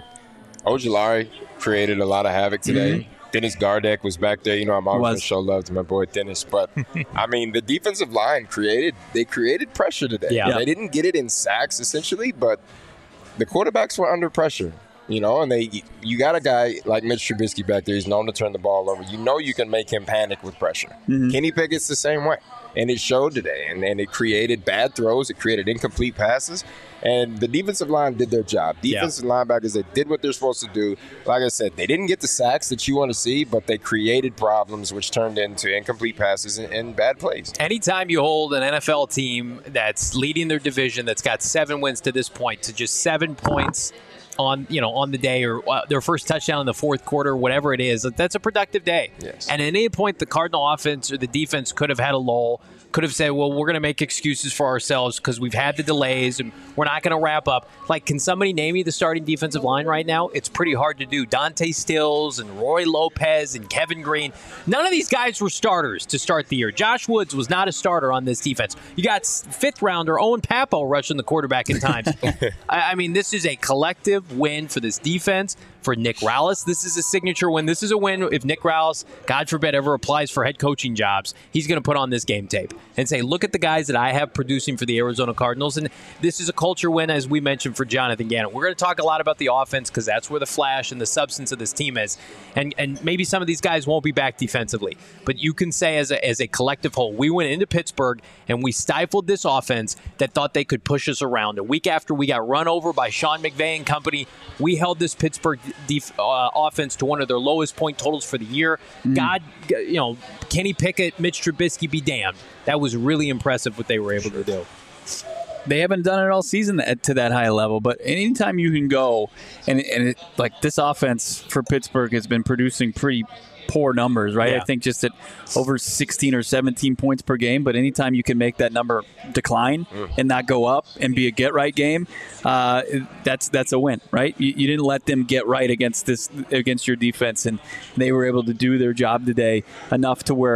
C: Ojulari created a lot of havoc today.
B: Mm-hmm.
C: Dennis Gardeck was back there. You know, I'm always going
B: Was.
C: to show love to my boy Dennis. But, I mean, the defensive line created – they created pressure today.
A: Yeah.
C: They didn't get it in sacks, essentially, but the quarterbacks were under pressure. You know, and they you got a guy like Mitch Trubisky back there. He's known to turn the ball over. You know you can make him panic with pressure.
B: Mm-hmm.
C: Kenny Pickett's the same way. And it showed today. And, and it created bad throws. It created incomplete passes. And the defensive line did their job. Defensive yeah. linebackers, they did what they're supposed to do. Like I said, they didn't get the sacks that you want to see, but they created problems which turned into incomplete passes and, and bad plays.
A: Anytime you hold an N F L team that's leading their division, that's got seven wins to this point, to just seven points on you know on the day, or uh, their first touchdown in the fourth quarter, whatever it is, that's a productive day.
C: Yes.
A: And at any point, the Cardinal offense or the defense could have had a lull, could have said, well, we're going to make excuses for ourselves because we've had the delays and we're not going to wrap up. Like, can somebody name me the starting defensive line right now? It's pretty hard to do. Dante Stills and Roy Lopez and Kevin Green. None of these guys were starters to start the year. Josh Woods was not a starter on this defense. You got fifth rounder Owen Pappo rushing the quarterback in times. I, I mean, this is a collective win for this defense. For Nick Rallis, this is a signature win. This is a win. If Nick Rallis, God forbid, ever applies for head coaching jobs, he's going to put on this game tape and say, look at the guys that I have producing for the Arizona Cardinals. And this is a culture win, as we mentioned, for Jonathan Gannon. We're going to talk a lot about the offense because that's where the flash and the substance of this team is. And and maybe some of these guys won't be back defensively. But you can say as a, as a collective whole, we went into Pittsburgh and we stifled this offense that thought they could push us around. A week after we got run over by Sean McVay and company, we held this Pittsburgh Def, uh, offense to one of their lowest point totals for the year. Mm. God, you know, Kenny Pickett, Mitch Trubisky, be damned. That was really impressive what they were able to do.
B: They haven't done it all season to that high level, but anytime you can go, and, and it, like this offense for Pittsburgh has been producing pretty poor numbers, right?
A: Yeah.
B: I think just at over sixteen or seventeen points per game, but anytime you can make that number decline mm. and not go up and be a get-right game, uh, that's that's a win, right? You, you didn't let them get right against this against your defense, and they were able to do their job today enough to where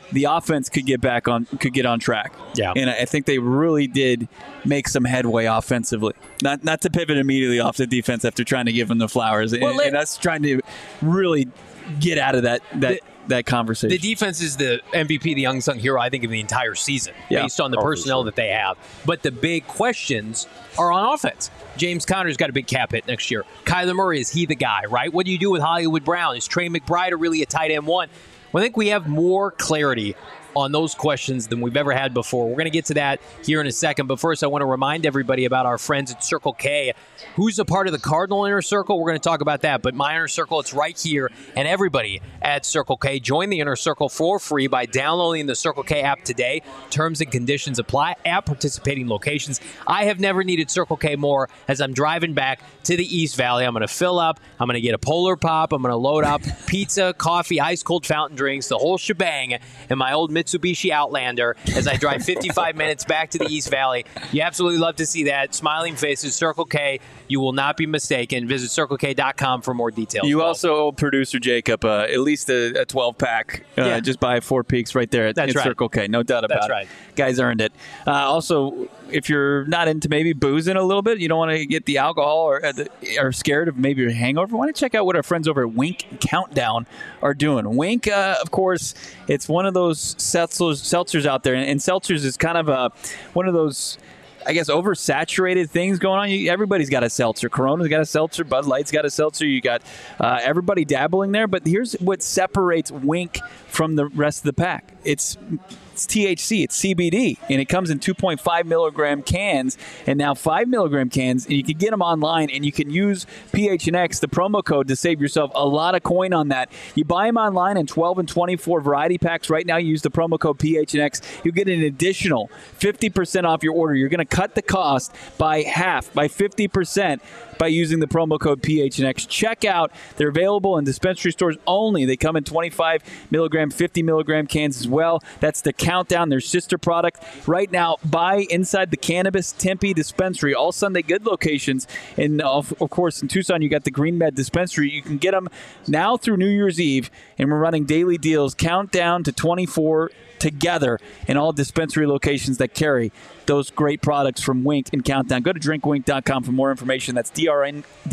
B: the offense could get back on could get on track.
A: Yeah.
B: And I think they really did make some headway offensively. Not not to pivot immediately off the defense after trying to give them the flowers
A: well,
B: and,
A: let,
B: and us trying to really get out of that that.
A: The,
B: that conversation.
A: The defense is the M V P, the unsung hero, I think, of the entire season,
B: yeah.
A: based on the
C: oh,
A: personnel
C: sure.
A: that they have. But the big questions are on offense. James Conner's got a big cap hit next year. Kyler Murray, is he the guy, right? What do you do with Hollywood Brown? Is Trey McBride really a tight end one? Well, I think we have more clarity on those questions than we've ever had before. We're going to get to that here in a second. But first, I want to remind everybody about our friends at Circle K. Who's a part of the Cardinal Inner Circle? We're going to talk about that. But my Inner Circle, it's right here. And everybody at Circle K, join the Inner Circle for free by downloading the Circle K app today. Terms and conditions apply at participating locations. I have never needed Circle K more as I'm driving back to the East Valley. I'm going to fill up. I'm going to get a Polar Pop. I'm going to load up pizza, coffee, ice-cold fountain drinks, the whole shebang, and my old Mitsubishi Outlander as I drive fifty-five minutes back to the East Valley. You absolutely love to see that. Smiling faces, Circle K. You will not be mistaken. Visit circle k dot com for more details.
B: You
A: well.
B: also owe producer Jacob uh, at least a twelve-pack. Uh,
A: Yeah.
B: Just buy Four Peaks right there at,
A: That's
B: at
A: right.
B: Circle K. No doubt about
A: That's
B: it.
A: right.
B: Guys earned it. Uh, also, if you're not into maybe boozing a little bit, you don't want to get the alcohol or uh, the, are scared of maybe a hangover, why don't you check out what our friends over at Wink Countdown are doing. Wink, uh, of course, it's one of those seltzers, seltzers out there, and, and seltzers is kind of a, one of those, I guess, oversaturated things going on. You, everybody's got a seltzer. Corona's got a seltzer. Bud Light's got a seltzer. You got uh, everybody dabbling there. But here's what separates Wink from the rest of the pack. It's It's T H C, it's C B D, and it comes in two point five milligram cans and now five milligram cans, and you can get them online, and you can use P H N X, the promo code, to save yourself a lot of coin on that. You buy them online in twelve and twenty-four variety packs. Right now, you use the promo code P H N X. You get an additional fifty percent off your order. You're going to cut the cost by half, by fifty percent, by using the promo code P H N X. Check out. They're available in dispensary stores only. They come in twenty-five milligram, fifty milligram cans as well. That's the Countdown, their sister product. Right now, buy inside the Cannabis Tempe dispensary, all Sunday Good locations. And of, of course, in Tucson, you got the Green Med dispensary. You can get them now through New Year's Eve, and we're running daily deals. Countdown to twenty-four together in all dispensary locations that carry those great products from Wink and Countdown. Go to drink wink dot com for more information. That's D R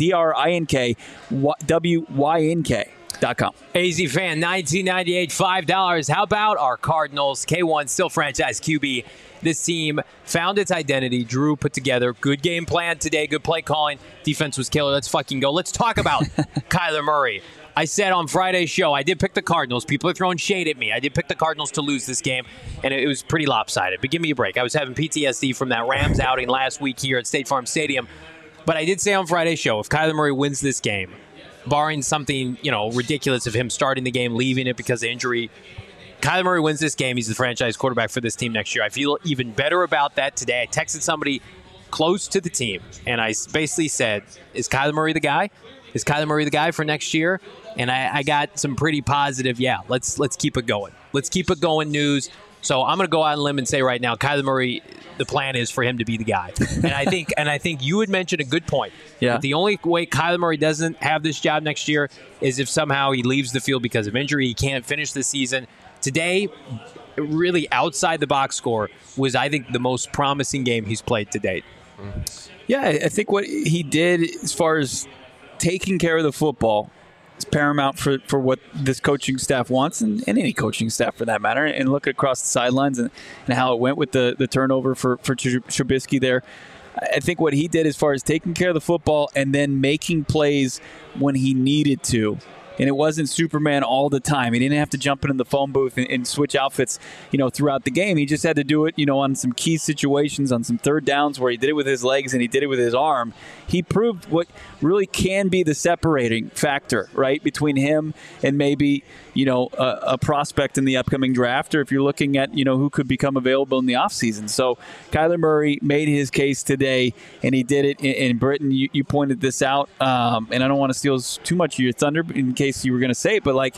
B: I N K W Y N K dot com.
A: A Z fan, nineteen ninety-eight, five dollars. How about our Cardinals? K one, still franchise Q B. This team found its identity. Drew put together good game plan today, good play calling. Defense was killer. Let's fucking go. Let's talk about Kyler Murray. I said on Friday's show, I did pick the Cardinals. People are throwing shade at me. I did pick the Cardinals to lose this game, and it was pretty lopsided. But give me a break. I was having P T S D from that Rams outing last week here at State Farm Stadium. But I did say on Friday's show, if Kyler Murray wins this game, barring something, you know, ridiculous of him starting the game, leaving it because of injury, Kyler Murray wins this game. He's the franchise quarterback for this team next year. I feel even better about that today. I texted somebody close to the team, and I basically said, is Kyler Murray the guy? Is Kyler Murray the guy for next year? And I, I got some pretty positive, yeah, let's let's keep it going. Let's keep it going news. So I'm going to go out on a limb and say right now, Kyler Murray, the plan is for him to be the guy. And I think and I think you had mentioned a good point.
B: Yeah.
A: That the only way Kyler Murray doesn't have this job next year is if somehow he leaves the field because of injury. He can't finish the season. Today, really outside the box score was, I think, the most promising game he's played to date.
B: Yeah, I think what he did as far as taking care of the football is paramount for, for what this coaching staff wants, and, and any coaching staff for that matter. And look across the sidelines and, and how it went with the, the turnover for, for Trubisky there. I think what he did as far as taking care of the football and then making plays when he needed to. And it wasn't Superman all the time. He didn't have to jump into the phone booth and, and switch outfits, you know, throughout the game. He just had to do it, you know, on some key situations, on some third downs where he did it with his legs and he did it with his arm. He proved what really can be the separating factor, right, between him and maybe, you know, a, a prospect in the upcoming draft, or if you're looking at, you know, who could become available in the offseason. So Kyler Murray made his case today, and he did it. In, in Britain, you, you pointed this out, um, and I don't want to steal too much of your thunder in case you were going to say it, but like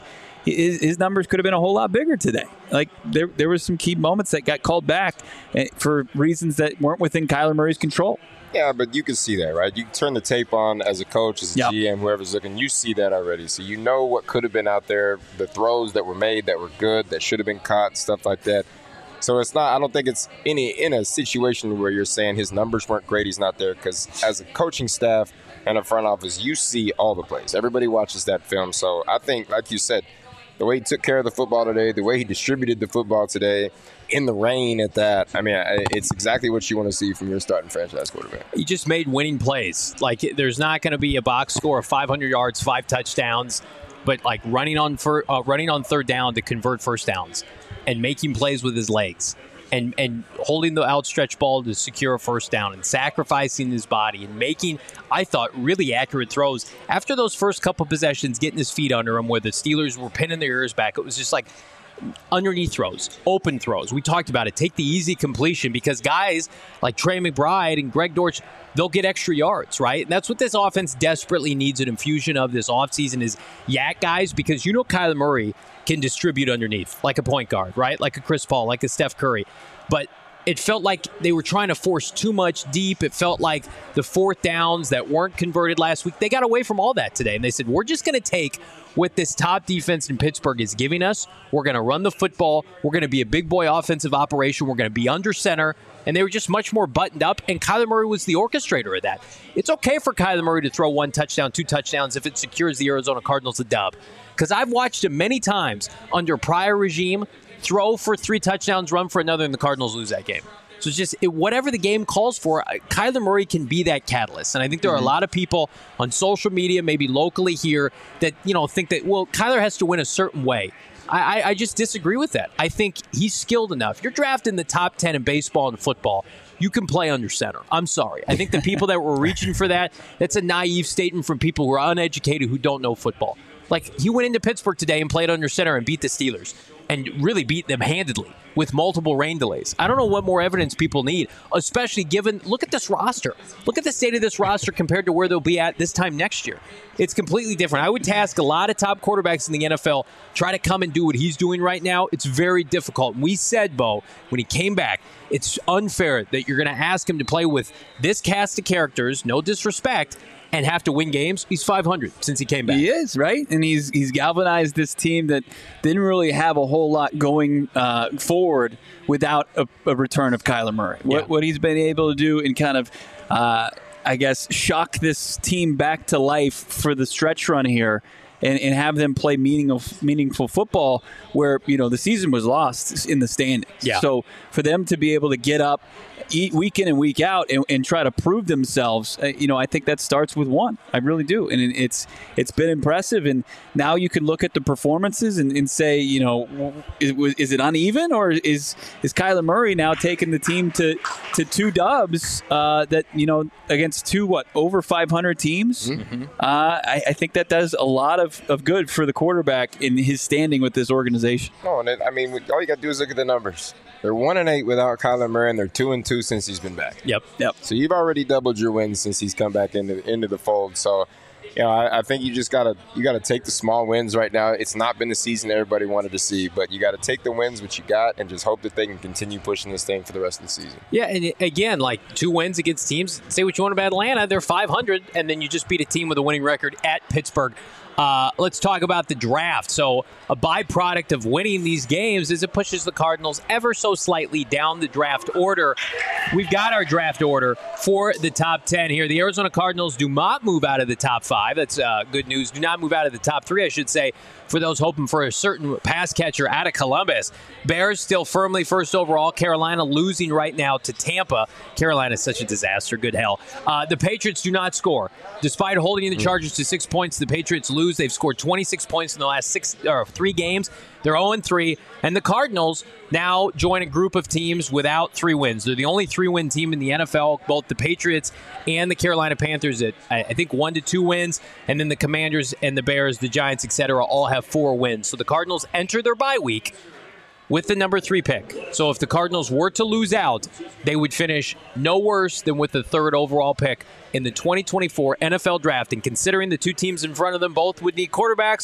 B: his, his numbers could have been a whole lot bigger today. Like there, there were some key moments that got called back for reasons that weren't within Kyler Murray's control.
C: Yeah, but you can see that, right? You can turn the tape on as a coach, as a
B: yep.
C: G M, whoever's looking. You see that already. So you know what could have been out there, the throws that were made that were good, that should have been caught, stuff like that. So it's not – I don't think it's any in a situation where you're saying his numbers weren't great, he's not there. Because as a coaching staff and a front office, you see all the plays. Everybody watches that film. So I think, like you said, the way he took care of the football today, the way he distributed the football today – in the rain at that, I mean, it's exactly what you want to see from your starting franchise quarterback.
A: He just made winning plays. Like, there's not going to be a box score of five hundred yards, five touchdowns, but like running on fir- uh, running on third down to convert first downs and making plays with his legs and, and holding the outstretched ball to secure a first down and sacrificing his body and making, I thought, really accurate throws. After those first couple possessions, getting his feet under him where the Steelers were pinning their ears back, it was just like, underneath throws, open throws. We talked about it. Take the easy completion because guys like Trey McBride and Greg Dortch, they'll get extra yards, right? And that's what this offense desperately needs an infusion of this offseason is yak guys because you know Kyler Murray can distribute underneath like a point guard, right? Like a Chris Paul, like a Steph Curry. But it felt like they were trying to force too much deep. It felt like the fourth downs that weren't converted last week, they got away from all that today. And they said, we're just going to take what this top defense in Pittsburgh is giving us. We're going to run the football. We're going to be a big boy offensive operation. We're going to be under center. And they were just much more buttoned up. And Kyler Murray was the orchestrator of that. It's okay for Kyler Murray to throw one touchdown, two touchdowns if it secures the Arizona Cardinals a dub. Because I've watched him many times under prior regime throw for three touchdowns, run for another, and the Cardinals lose that game. So it's just it, whatever the game calls for, Kyler Murray can be that catalyst. And I think there are a lot of people on social media, maybe locally here, that you know think that, well, Kyler has to win a certain way. I, I, I just disagree with that. I think he's skilled enough. You're drafted in the top ten in baseball and football. You can play under center. I'm sorry. I think the people that were reaching for that, that's a naive statement from people who are uneducated who don't know football. Like, he went into Pittsburgh today and played under center and beat the Steelers and really beat them handedly with multiple rain delays. I don't know what more evidence people need, especially given, look at this roster. Look at the state of this roster compared to where they'll be at this time next year. It's completely different. I would task a lot of top quarterbacks in the N F L, try to come and do what he's doing right now. It's very difficult. We said, Bo, when he came back, it's unfair that you're going to ask him to play with this cast of characters, no disrespect, and have to win games. He's five hundred since he came back.
B: He is, right? And he's he's galvanized this team that didn't really have a whole lot going uh, forward without a, a return of Kyler Murray. What,
A: yeah. what
B: he's been able to do and kind of, uh, I guess, shock this team back to life for the stretch run here and, and have them play meaningful, meaningful football where, you know, the season was lost in the standings.
A: Yeah.
B: So for them to be able to get up eat week in and week out and, and try to prove themselves, uh, you know, I think that starts with one. I really do. And it's it's been impressive. And now you can look at the performances and, and say, you know, is, is it uneven or is is Kyler Murray now taking the team to, to two dubs uh, that, you know, against two, what, over five hundred teams? Mm-hmm. Uh, I, I think that does a lot of, of good for the quarterback in his standing with this organization.
C: No, and it, I mean, all you got to do is look at the numbers. They're one and eight without Kyler Murray, and they're two and two since he's been back.
A: Yep,
B: yep.
C: So you've already doubled your wins since he's come back into into the fold. So, you know, I, I think you just gotta you gotta take the small wins right now. It's not been the season everybody wanted to see, but you got to take the wins which you got and just hope that they can continue pushing this thing for the rest of the season.
A: Yeah, and again, like two wins against teams. Say what you want about Atlanta, they're five hundred, and then you just beat a team with a winning record at Pittsburgh. Uh, let's talk about the draft. So a byproduct of winning these games is it pushes the Cardinals ever so slightly down the draft order. We've got our draft order for the top ten here. The Arizona Cardinals do not move out of the top five. That's uh, good news. Do not move out of the top three, I should say, for those hoping for a certain pass catcher out of Columbus. Bears still firmly first overall. Carolina losing right now to Tampa. Carolina is such a disaster. Good hell. Uh, the Patriots do not score. Despite holding the Chargers to six points, the Patriots lose. They've scored twenty-six points in the last six or three games. They're oh and three. And the Cardinals now join a group of teams without three wins. They're the only three-win team in the N F L. Both the Patriots and the Carolina Panthers at, I think, one to two wins. And then the Commanders and the Bears, the Giants, et cetera, all have four wins. So the Cardinals enter their bye week with the number three pick. So if the Cardinals were to lose out, they would finish no worse than with the third overall pick in the twenty twenty-four N F L Draft. And considering the two teams in front of them both would need quarterbacks,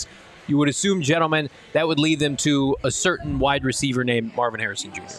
A: You would assume, gentlemen, that would lead them to a certain wide receiver named Marvin Harrison Junior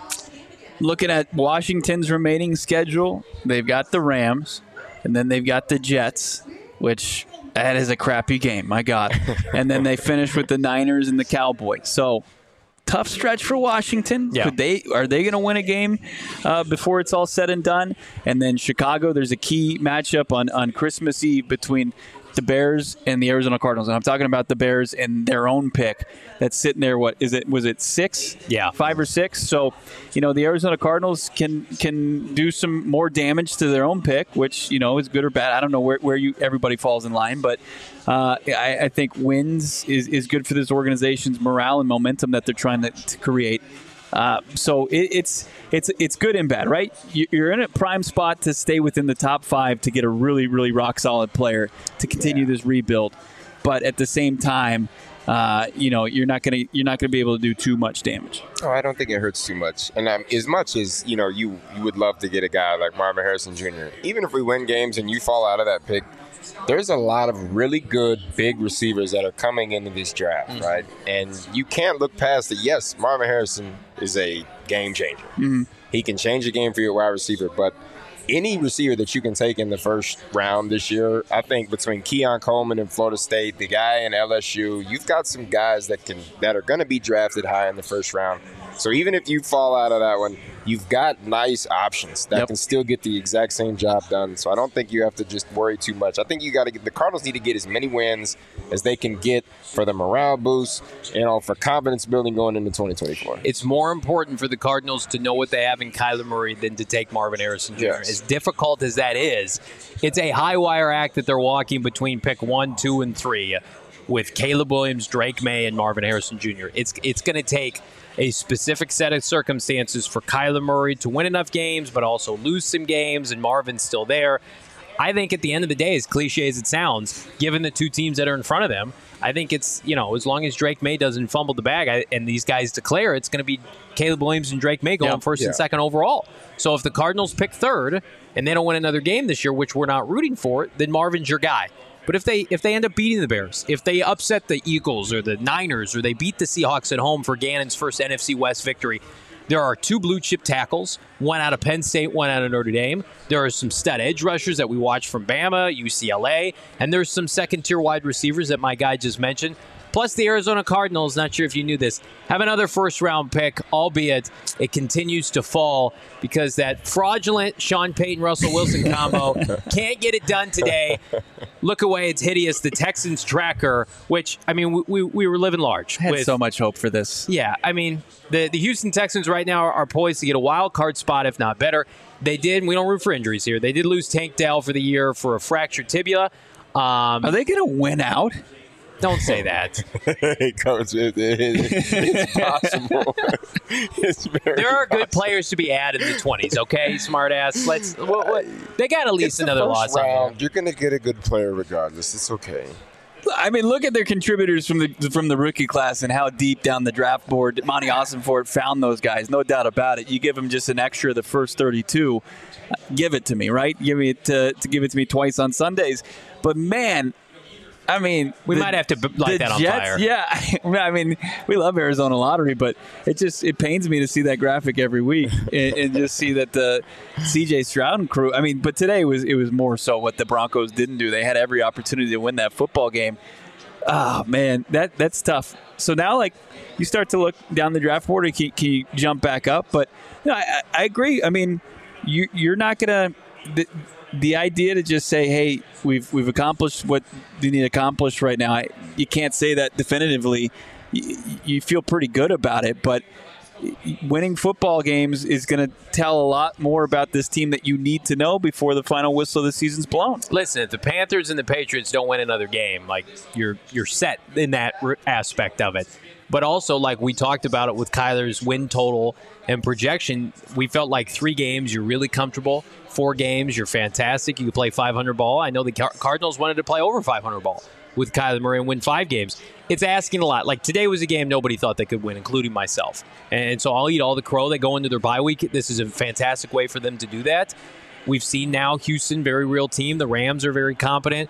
B: Looking at Washington's remaining schedule, they've got the Rams, and then they've got the Jets, which that is a crappy game, my God. And then they finish with the Niners and the Cowboys. So tough stretch for Washington.
A: Yeah.
B: Could they are they going to win a game uh, before it's all said and done? And then Chicago, there's a key matchup on, on Christmas Eve between the Bears and the Arizona Cardinals. And I'm talking about the Bears and their own pick that's sitting there. What is it? Was it six?
A: Yeah.
B: Five or six? So, you know, the Arizona Cardinals can can do some more damage to their own pick, which, you know, is good or bad. I don't know where, where you everybody falls in line, but uh, I, I think wins is, is good for this organization's morale and momentum that they're trying to, to create. Uh, so it, it's it's it's good and bad, right? You're in a prime spot to stay within the top five to get a really, really rock solid player to continue yeah. this rebuild, but at the same time, uh, you know, you're not gonna you're not gonna be able to do too much damage.
C: Oh, I don't think it hurts too much. And um, as much as you know, you you would love to get a guy like Marvin Harrison Junior Even if we win games and you fall out of that pick, there's a lot of really good big receivers that are coming into this draft, mm-hmm. right? And you can't look past it. Yes, Marvin Harrison is a game changer.
B: Mm-hmm.
C: He can change the game for your wide receiver, but any receiver that you can take in the first round this year, I think between Keon Coleman in Florida State, the guy in L S U, you've got some guys that can that are going to be drafted high in the first round. So even if you fall out of that one, you've got nice options that
B: yep.
C: can still get the exact same job done. So I don't think you have to just worry too much. I think you got to get the Cardinals need to get as many wins as they can get for the morale boost, you know, for confidence building going into twenty twenty-four.
A: It's more important for the Cardinals to know what they have in Kyler Murray than to take Marvin Harrison Junior
C: Yes.
A: As difficult as that is, it's a high wire act that they're walking between pick one, two, and three with Caleb Williams, Drake May, and Marvin Harrison Junior It's it's going to take a specific set of circumstances for Kyler Murray to win enough games, but also lose some games, and Marvin's still there. I think at the end of the day, as cliche as it sounds, given the two teams that are in front of them, I think it's, you know, as long as Drake May doesn't fumble the bag I, and these guys declare, it's going to be Caleb Williams and Drake May going
B: yeah,
A: first
C: yeah.
A: and second overall. So if the Cardinals pick third and they don't win another game this year, which we're not rooting for, then Marvin's your guy. But if they if they end up beating the Bears, if they upset the Eagles or the Niners, or they beat the Seahawks at home for Gannon's first N F C West victory, there are two blue chip tackles, one out of Penn State, one out of Notre Dame. There are some stud edge rushers that we watch from Bama, U C L A, and there's some second-tier wide receivers that my guy just mentioned. Plus, the Arizona Cardinals, not sure if you knew this, have another first-round pick, albeit it continues to fall because that fraudulent Sean Payton-Russell Wilson combo can't get it done today. Look away, it's hideous. The Texans tracker, which, I mean, we, we, we were living large.
B: I had
A: with,
B: so much hope for this.
A: Yeah, I mean, the, the Houston Texans right now are, are poised to get a wild card spot, if not better. They did, and we don't root for injuries here, they did lose Tank Dell for the year for a fractured tibia. Um,
B: Are they going to win out?
A: Don't say that.
C: it comes with it. It's possible. It's very
A: There are good
C: possible.
A: players to be added in the twenties, okay, smartass? Let's. What, what, they got at least
C: It's the
A: another
C: first
A: loss on
C: round.
A: there.
C: You're going to get a good player regardless. It's okay.
B: I mean, look at their contributors from the from the rookie class and how deep down the draft board Monty Ossenfort found those guys. No doubt about it. You give them just an extra of the first thirty-two, give it to me, right? Give me it to, to give it to me twice on Sundays. But man, I mean,
A: We
B: the-
A: might have to b- light
B: the
A: that on
B: Jets,
A: fire.
B: Yeah, I mean, we love Arizona lottery, but it just it pains me to see that graphic every week and, and just see that the C J Stroud and crew. I mean, but today was it was more so what the Broncos didn't do. They had every opportunity to win that football game. Oh man, that that's tough. So now, like, you start to look down the draft board, and can, can you jump back up? But you know, I, I agree. I mean, you you're not gonna. The, The idea to just say, "Hey, we've we've accomplished what you need to accomplish right now," I, you can't say that definitively. You, you feel pretty good about it, but winning football games is going to tell a lot more about this team that you need to know before the final whistle of the season's blown.
A: Listen, if the Panthers and the Patriots don't win another game, like you're you're set in that r- aspect of it. But also, like we talked about it with Kyler's win total and projection, we felt like three games you're really comfortable. Four games, you're fantastic. You can play five hundred ball. I know the Car- Cardinals wanted to play over five hundred ball with Kyler Murray and win five games. It's asking a lot. Like today was a game nobody thought they could win, including myself. And so I'll eat all the crow. They go into their bye week. This is a fantastic way for them to do that. We've seen now Houston, very real team. The Rams are very competent.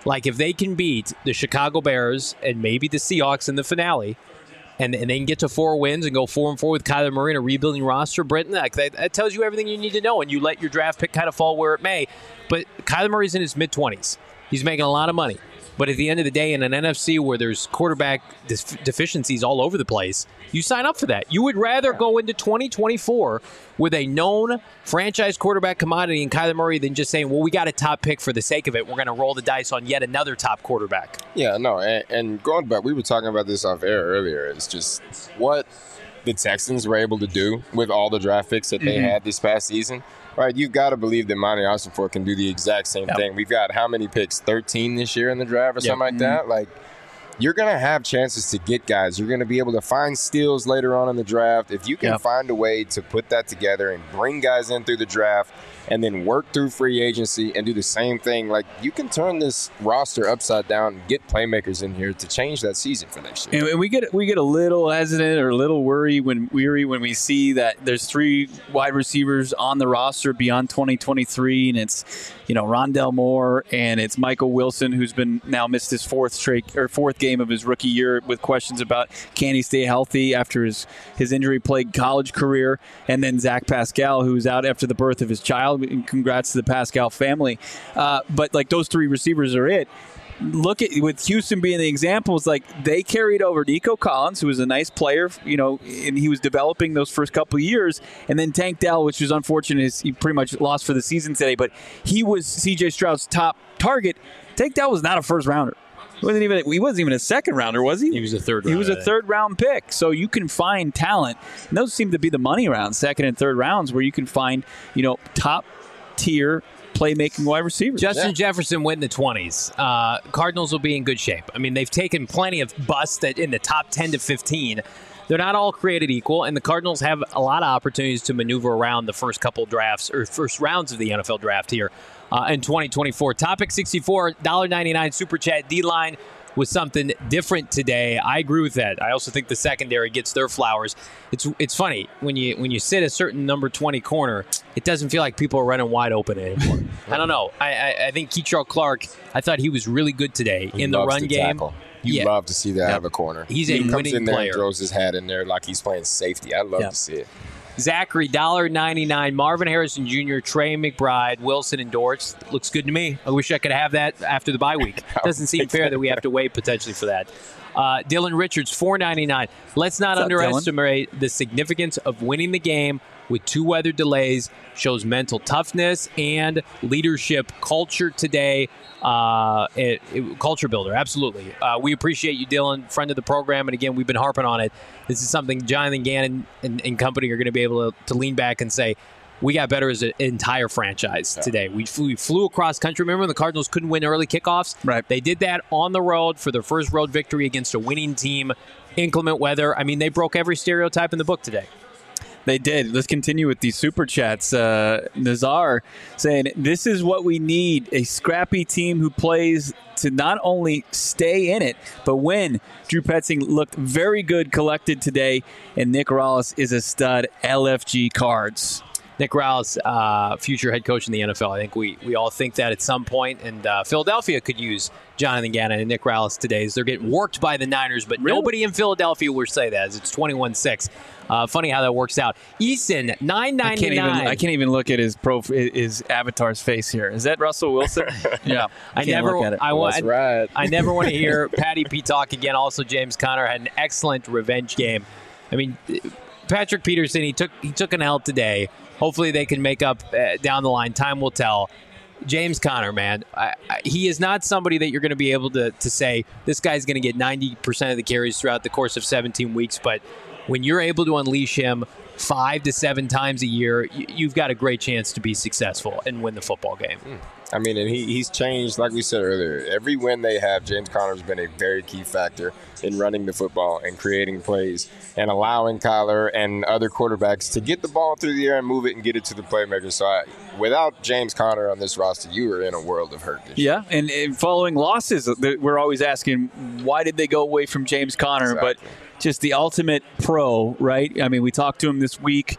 A: Like, if they can beat the Chicago Bears and maybe the Seahawks in the finale, and, and they can get to four wins and go four and four with Kyler Murray and a rebuilding roster, Britton, that, that tells you everything you need to know, and you let your draft pick kind of fall where it may. But Kyler Murray's in his mid-twenties. He's making a lot of money. But at the end of the day, in an N F C where there's quarterback def- deficiencies all over the place, you sign up for that. You would rather go into twenty twenty-four with a known franchise quarterback commodity in Kyler Murray than just saying, well, we got a top pick for the sake of it. We're going to roll the dice on yet another top quarterback.
C: Yeah, no, and, and going back, we were talking about this off air earlier. It's just what the Texans were able to do with all the draft picks that they mm-hmm. had this past season. Right, you've got to believe that Monty Ossenfort can do the exact same yep. thing. We've got how many picks? thirteen this year in the draft or yep. something like mm-hmm. that? Like, you're going to have chances to get guys. You're going to be able to find steals later on in the draft. If you can yep. find a way to put that together and bring guys in through the draft and then work through free agency and do the same thing, like, you can turn this roster upside down and get playmakers in here to change that season for next year.
B: And we get we get a little hesitant or a little worry when weary when we see that there's three wide receivers on the roster beyond twenty twenty-three, and it's, you know, Rondell Moore and it's Michael Wilson, who's been now missed his fourth straight or fourth game of his rookie year with questions about can he stay healthy after his his injury-plagued college career, and then Zach Pascal, who's out after the birth of his child. And congrats to the Pascal family. Uh, but like those three receivers are it. Look at with Houston being the example, it's like they carried over Nico Collins, who was a nice player, you know, and he was developing those first couple of years, and then Tank Dell, which was unfortunate, is he pretty much lost for the season today. But he was C J Stroud's top target. Tank Dell was not a first rounder. He wasn't even he wasn't even a second rounder, was he?
A: He was a third.
B: He was a third round pick. So you can find talent, and those seem to be the money rounds, second and third rounds, where you can find, you know, top tier playmaking wide receivers.
A: Justin
B: yeah.
A: Jefferson went in the twenties. Uh, Cardinals will be in good shape. I mean, they've taken plenty of busts that in the top ten to fifteen. They're not all created equal, and the Cardinals have a lot of opportunities to maneuver around the first couple drafts or first rounds of the N F L draft here uh, in twenty twenty-four. Topic sixty-four, one dollar ninety-nine Super Chat. D-line was something different today. I agree with that. I also think the secondary gets their flowers. It's it's funny when you when you sit a certain number twenty corner, it doesn't feel like people are running wide open anymore. I don't know. I, I, I think Keitrell Clark, I thought he was really good today
C: he
A: in the run game.
C: Tackle. You yeah. love to see that yep. out of a corner.
A: He's
C: he
A: a
C: comes
A: winning
C: in there
A: player.
C: And throws his hat in there like he's playing safety. I love yep. to see it.
A: Zachary, one dollar ninety-nine. Marvin Harrison Junior, Trey McBride, Wilson, and Dortz. Looks good to me. I wish I could have that after the bye week. Doesn't seem fair that we have to wait potentially for that. Uh, Dylan Richards, four ninety-nine. Let's not
B: What's
A: underestimate up, the significance of winning the game with two weather delays. Shows mental toughness and leadership culture today. Uh, it, it, culture builder, absolutely. Uh, we appreciate you, Dylan, friend of the program. And again, we've been harping on it. This is something Jonathan Gannon and, and company are going to be able to, to lean back and say, we got better as an entire franchise yeah. today. We flew, we flew across country. Remember when the Cardinals couldn't win early kickoffs?
B: Right.
A: They did that on the road for their first road victory against a winning team. Inclement weather. I mean, they broke every stereotype in the book today.
B: They did. Let's continue with these super chats. Uh, Nazar saying, this is what we need, a scrappy team who plays to not only stay in it, but win. Drew Petzing looked very good collected today, and Nick Rallis is a stud. L F G Cards.
A: Nick Rallis, uh, future head coach in the N F L. I think we, we all think that at some point, and uh, Philadelphia could use Jonathan Gannon and Nick Rallis today as they're getting worked by the Niners, but really? Nobody in Philadelphia will say that as it's twenty-one six. Uh, funny how that works out. Eason, nine ninety-nine. I can't even,
B: I can't even look at his prof, his avatar's face here. Is that Russell Wilson? yeah.
A: I never,
B: look at it.
A: I,
C: well, that's right.
A: I, I never want to hear Patty P talk again. Also, James Conner had an excellent revenge game. I mean, Patrick Peterson, he took he took an L today. Hopefully they can make up uh, down the line. Time will tell. James Conner, man, I, I, he is not somebody that you're going to be able to, to say, this guy's going to get ninety percent of the carries throughout the course of seventeen weeks. But when you're able to unleash him five to seven times a year, you, you've got a great chance to be successful and win the football game.
C: Mm. I mean, and he, he's changed, like we said earlier. Every win they have, James Conner has been a very key factor in running the football and creating plays and allowing Kyler and other quarterbacks to get the ball through the air and move it and get it to the playmaker. So I, without James Conner on this roster, you are in a world of hurt this
B: yeah, and, and following losses, we're always asking, why did they go away from James Conner?
C: Exactly.
B: But just the ultimate pro, right? I mean, we talked to him this week.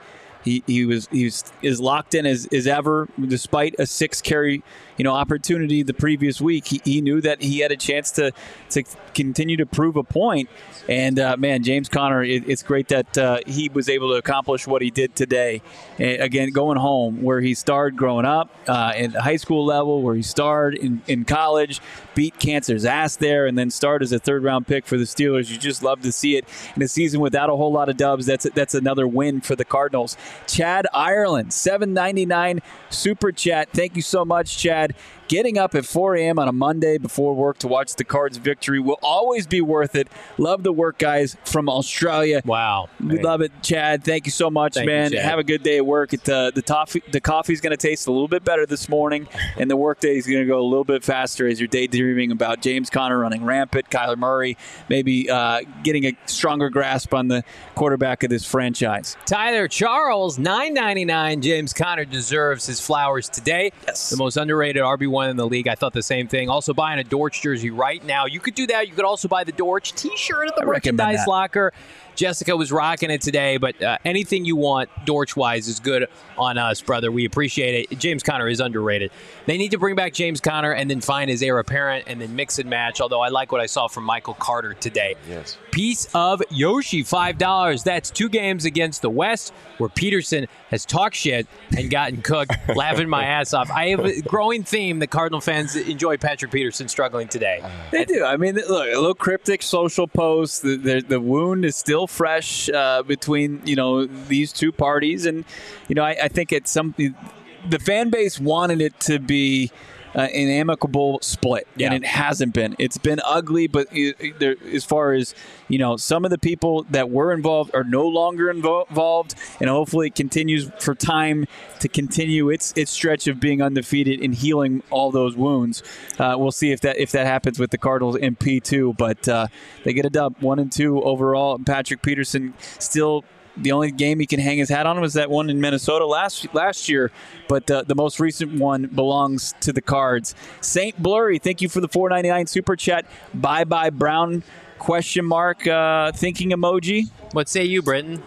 B: he he was he was as locked in as, as ever, despite a six carry you know opportunity the previous week. He, he knew that he had a chance to to continue to prove a point. And uh, man, James Conner, it, it's great that uh, he was able to accomplish what he did today. And again, going home where he started growing up uh, at the high school level, where he started in, in college, beat cancer's ass there, and then started as a third round pick for the Steelers. You just love to see it in a season without a whole lot of dubs. That's that's another win for the Cardinals. Chad Ireland, seven ninety-nine super chat. Thank you so much, Chad. Getting up at four a.m. on a Monday before work to watch the Cards' victory will always be worth it. Love the work, guys, from Australia.
A: Wow.
B: We love it, Chad. Thank you so much,
A: Thank
B: man.
A: you, Chad.
B: Have a good day at work. It, uh, the, toffee, the coffee's going to taste a little bit better this morning, and the work day is going to go a little bit faster as you're daydreaming about James Conner running rampant, Kyler Murray maybe uh, getting a stronger grasp on the quarterback of this franchise.
A: Tyler Charles, nine ninety-nine. James Conner deserves his flowers today.
B: Yes.
A: The most underrated R B one in the league. I thought the same thing. Also buying a Dortch jersey right now. You could do that. You could also buy the Dortch t-shirt at the
B: I recommend
A: merchandise
B: that.
A: locker. Jessica was rocking it today, but uh, anything you want Dortch-wise is good on us, brother. We appreciate it. James Conner is underrated. They need to bring back James Conner and then find his heir apparent and then mix and match, although I like what I saw from Michael Carter today.
C: Yes.
A: Piece of Yoshi, five dollars. That's two games against the West where Peterson has talked shit and gotten cooked, laughing my ass off. I have a growing theme that Cardinal fans enjoy Patrick Peterson struggling today.
B: They do. I mean, look, a little cryptic social post. The, the, the wound is still fresh uh, between, you know, these two parties. And, you know, I, I think it's something the fan base wanted it to be uh, an amicable split,
A: Yeah.
B: and it hasn't been. It's been ugly, but it, it, there, as far as, you know, some of the people that were involved are no longer invo- involved, and hopefully it continues for time to continue its its stretch of being undefeated and healing all those wounds. Uh, we'll see if that if that happens with the Cardinals in P two, but uh, they get a dub, one and two overall. Patrick Peterson still. The only game he can hang his hat on was that one in Minnesota last last year, but uh, the most recent one belongs to the Cards. Saint Blurry, thank you for the four ninety-nine super chat. Bye bye Brown question mark uh, thinking emoji.
A: What say you, Britton?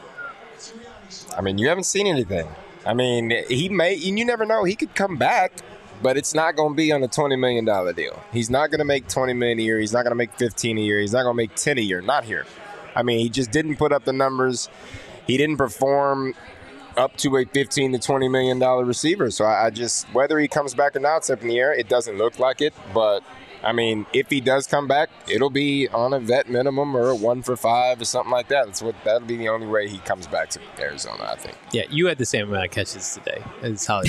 C: I mean, you haven't seen anything. I mean, he may, and you never know, he could come back, but it's not going to be on a twenty million dollars deal. He's not going to make twenty million dollars a year. He's not going to make fifteen a year. He's not going to make ten a year. Not here. I mean, he just didn't put up the numbers. He didn't perform up to a fifteen to twenty million dollars receiver. So I, I just, whether he comes back or not, it's up in the air. It doesn't look like it. But, I mean, if he does come back, it'll be on a vet minimum or a one for five or something like that. That's what, that'll be the only way he comes back to Arizona, I think.
A: Yeah, you had the same amount of catches today as Holly.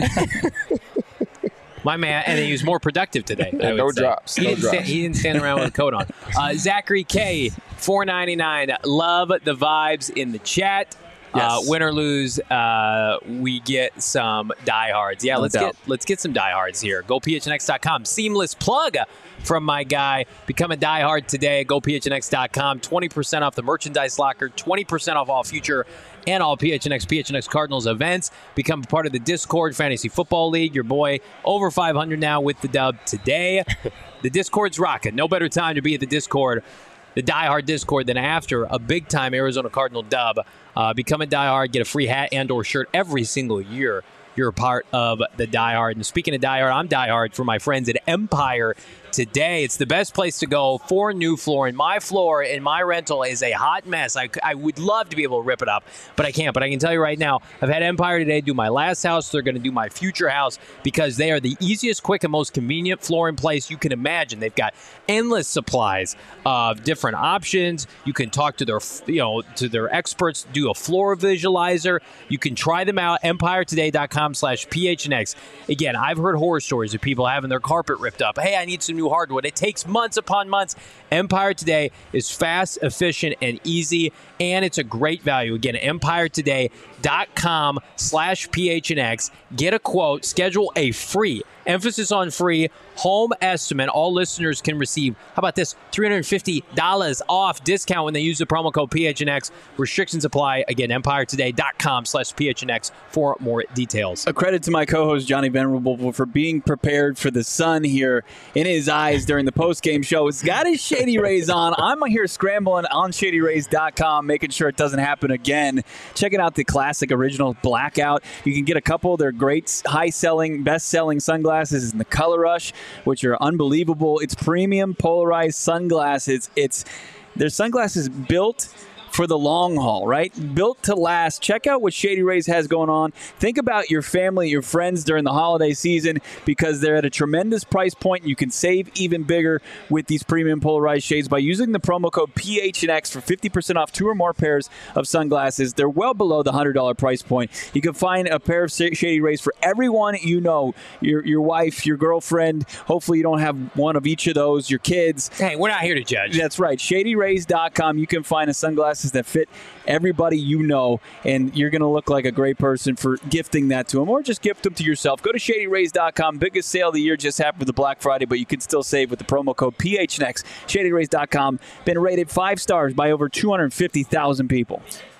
A: My man, and he was more productive today. I would
C: no
A: say.
C: drops,
A: He,
C: no
A: didn't
C: drops.
A: Stand, he didn't stand around with a coat on. Uh, Zachary K, four ninety-nine. Love the vibes in the chat. Uh,
B: Yes.
A: win or lose, uh, we get some diehards. Yeah,
B: No
A: let's
B: doubt.
A: get let's get some diehards here. Go P H N X dot com. Seamless plug from my guy. Become a diehard today. Go P H N X dot com. twenty percent off the merchandise locker. twenty percent off all future and all P H N X, P H N X Cardinals events. Become part of the Discord Fantasy Football League. Your boy over five hundred now with the dub today. The Discord's rocking. No better time to be at the Discord, the diehard Discord, than after a big-time Arizona Cardinal dub. Uh, become a diehard, get a free hat and or shirt every single year. You're a part of the diehard. And speaking of diehard, I'm diehard for my friends at Empire today. It's the best place to go for new flooring. My floor in my rental is a hot mess. I, I would love to be able to rip it up, but I can't. But I can tell you right now, I've had Empire today do my last house. They're going to do my future house because they are the easiest, quick, and most convenient flooring place you can imagine. They've got endless supplies of different options. You can talk to their, you know, to their experts, do a floor visualizer. You can try them out. empire today dot com slash P H N X. Again, I've heard horror stories of people having their carpet ripped up. Hey, I need some new hardwood. It takes months upon months. Empire Today is fast, efficient, and easy, and it's a great value. Again, empire today dot com slash P H N X. Get a quote. Schedule a free, emphasis on free, home estimate. All listeners can receive, how about this, three hundred fifty dollars off discount when they use the promo code P H N X. Restrictions apply. Again, empire today dot com slash P H N X for more details.
B: A credit to my co-host Johnny Venerable for being prepared for the sun here in his eyes during the post-game show. He's got his Shady Rays on. I'm here scrambling on shady rays dot com, making sure it doesn't happen again. Checking out the class. classic original blackout. You can get a couple of their great high-selling, best-selling sunglasses in the Color Rush, which are unbelievable. It's premium polarized sunglasses. It's They're sunglasses built for the long haul, right? Built to last. Check out what Shady Rays has going on. Think about your family, your friends during the holiday season, because they're at a tremendous price point. You can save even bigger with these premium polarized shades by using the promo code P H N X for fifty percent off two or more pairs of sunglasses. They're well below the one hundred dollars price point. You can find a pair of Shady Rays for everyone you know, your your wife, your girlfriend. Hopefully you don't have one of each of those, your kids.
A: Hey, we're not here to judge.
B: That's right. Shady Rays dot com. You can find a sunglasses that fit everybody you know, and you're going to look like a great person for gifting that to them, or just gift them to yourself. Go to Shady Rays dot com. Biggest sale of the year just happened with the Black Friday, but you can still save with the promo code P H N X. Shady Rays dot com. Been rated five stars by over two hundred fifty thousand people.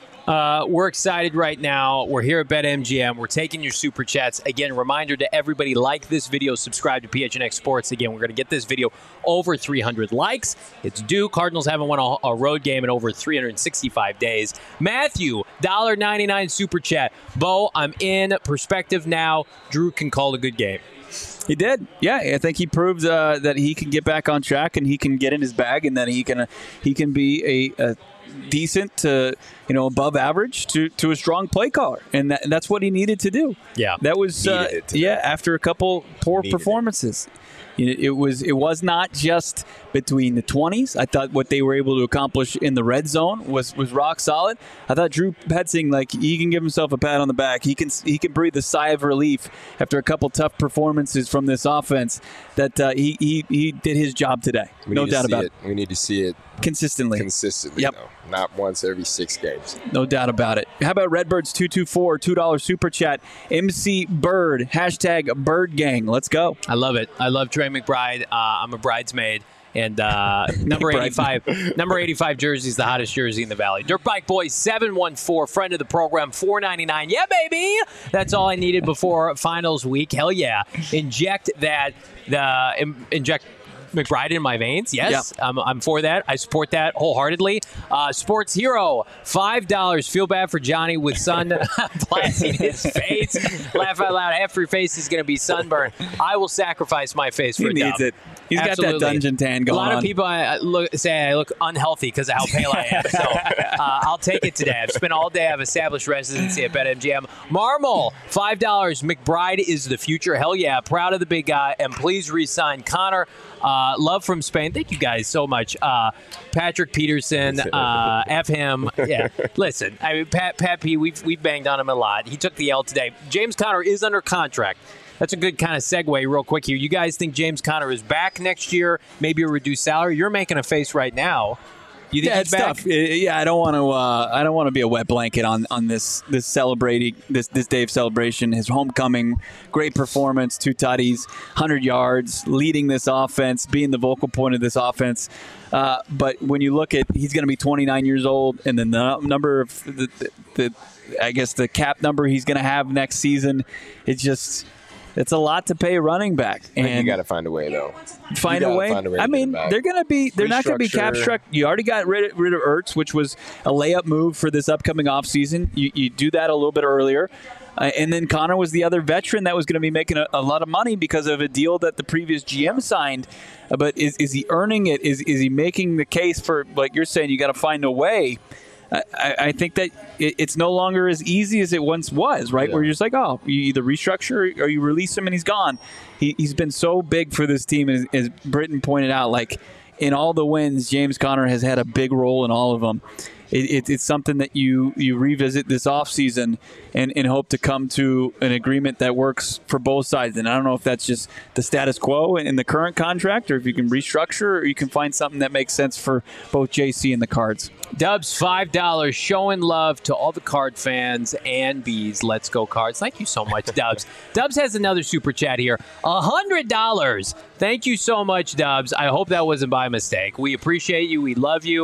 A: Uh, we're excited right now. We're here at BetMGM. We're taking your super chats. Again, reminder to everybody, like this video, subscribe to P H N X Sports. Again, we're going to get this video over three hundred likes. It's due. Cardinals haven't won a, a road game in over three hundred sixty-five days. Matthew, one dollar ninety-nine super chat. Bo, I'm in. Perspective now. Drew can call a good game.
B: He did. Yeah, I think he proved uh, that he can get back on track and he can get in his bag, and that he can uh, he can be a, a decent to, you know, above average to, to a strong play caller, and, that, and that's what he needed to do.
A: Yeah,
B: that was uh, yeah. After a couple poor needed performances, it. it was it was not just between the twenties. I thought what they were able to accomplish in the red zone was, was rock solid. I thought Drew Petzing, like, he can give himself a pat on the back. He can he can breathe a sigh of relief after a couple tough performances from this offense. That uh, he, he he did his job today.
C: We
B: no doubt about it.
C: it. We need to see it
B: consistently.
C: Consistently,
B: yep.
C: though. Not once every six games.
B: No doubt about it. How about Redbirds two two four, two dollar super chat? M C Bird, hashtag Bird Gang. Let's go.
A: I love it. I love Trey McBride. Uh, I'm a bridesmaid. And uh, number eighty-five, number eighty-five jersey is the hottest jersey in the Valley. Dirt Bike Boy seven one four, friend of the program, four ninety-nine. Yeah, baby. That's all I needed before finals week. Hell yeah. Inject that. The in, inject. McBride in my veins. Yes, yep. I'm, I'm for that. I support that wholeheartedly. Uh, Sports Hero, five dollars. Feel bad for Johnny with sun blasting his face. Laugh out loud. Half your face is going to be sunburned. I will sacrifice my face for
B: he
A: a
B: needs
A: dub.
B: it. He's
A: Absolutely.
B: got that dungeon tan going on.
A: A lot on. of people I look, say I look unhealthy because of how pale I am. So uh, I'll take it today. I've spent all day. I've established residency at BetMGM. Marmol, five dollars. McBride is the future. Hell yeah. Proud of the big guy. And please re-sign Connor. Uh, love from Spain. Thank you guys so much. Uh, Patrick Peterson, uh, F him. Yeah, listen, I mean, Pat, Pat P, we've, we've banged on him a lot. He took the L today. James Conner is under contract. That's a good kind of segue real quick here. You guys think James Conner is back next year, maybe a reduced salary? You're making a face right now. You think
B: yeah,
A: he's
B: it's
A: back?
B: tough. Yeah, I don't want to. Uh, I don't want to be a wet blanket on, on this this celebrating this this day of celebration. His homecoming, great performance, two tutties, hundred yards, leading this offense, being the vocal point of this offense. Uh, but when you look at, he's going to be twenty-nine years old, and then the number of the, the, the I guess the cap number he's going to have next season, it's just. It's a lot to pay a running back, and
C: you got to find a way, though.
B: Find a way. Find a way I mean, they're going to be. They're not going to be cap struck. You already got rid of, rid of Ertz, which was a layup move for this upcoming offseason. You you do that a little bit earlier, uh, and then Connor was the other veteran that was going to be making a, a lot of money because of a deal that the previous G M signed. Uh, but is is he earning it? Is is he making the case for, like you're saying, you got to find a way? I, I think that it's no longer as easy as it once was, right? Yeah. Where you're just like, oh, you either restructure or you release him and he's gone. He, he's been so big for this team, as, as Britton pointed out, like in all the wins, James Conner has had a big role in all of them. It, it, it's something that you, you revisit this offseason and, and hope to come to an agreement that works for both sides. And I don't know if that's just the status quo in, in the current contract, or if you can restructure, or you can find something that makes sense for both J C and the Cards.
A: Dubs, five dollars, showing love to all the Card fans and bees. Let's go Cards. Thank you so much, Dubs. Dubs has another super chat here. one hundred dollars. Thank you so much, Dubs. I hope that wasn't by mistake. We appreciate you. We love you.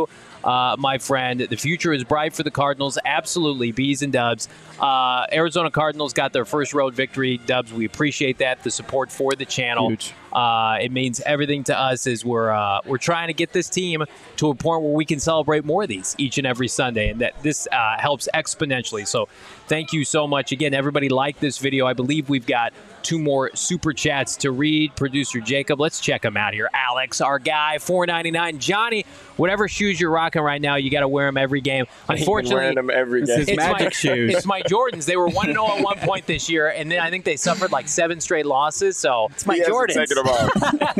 A: uh, my friend. The future is bright for the Cardinals. Absolutely, Bees and Dubs. Uh, Arizona Cardinals got their first road victory. Dubs, we appreciate that. The support for the channel.
B: Huge.
A: Uh, it means everything to us as we're uh, we're trying to get this team to a point where we can celebrate more of these each and every Sunday, and that this uh, helps exponentially. So thank you so much. Again, everybody like this video. I believe we've got two more super chats to read. Producer Jacob, let's check them out here. Alex, our guy, four ninety-nine. Johnny, whatever shoes you're rocking right now, you got to wear them every game. Unfortunately,
C: wearing them every
B: This
C: game.
B: is
A: it's
B: magic
A: my,
B: shoes.
A: It's my Jordans. They were one and oh at one point this year, and then I think they suffered like seven straight losses. So
B: It's my
C: He hasn't
B: Jordans.
C: taken them off.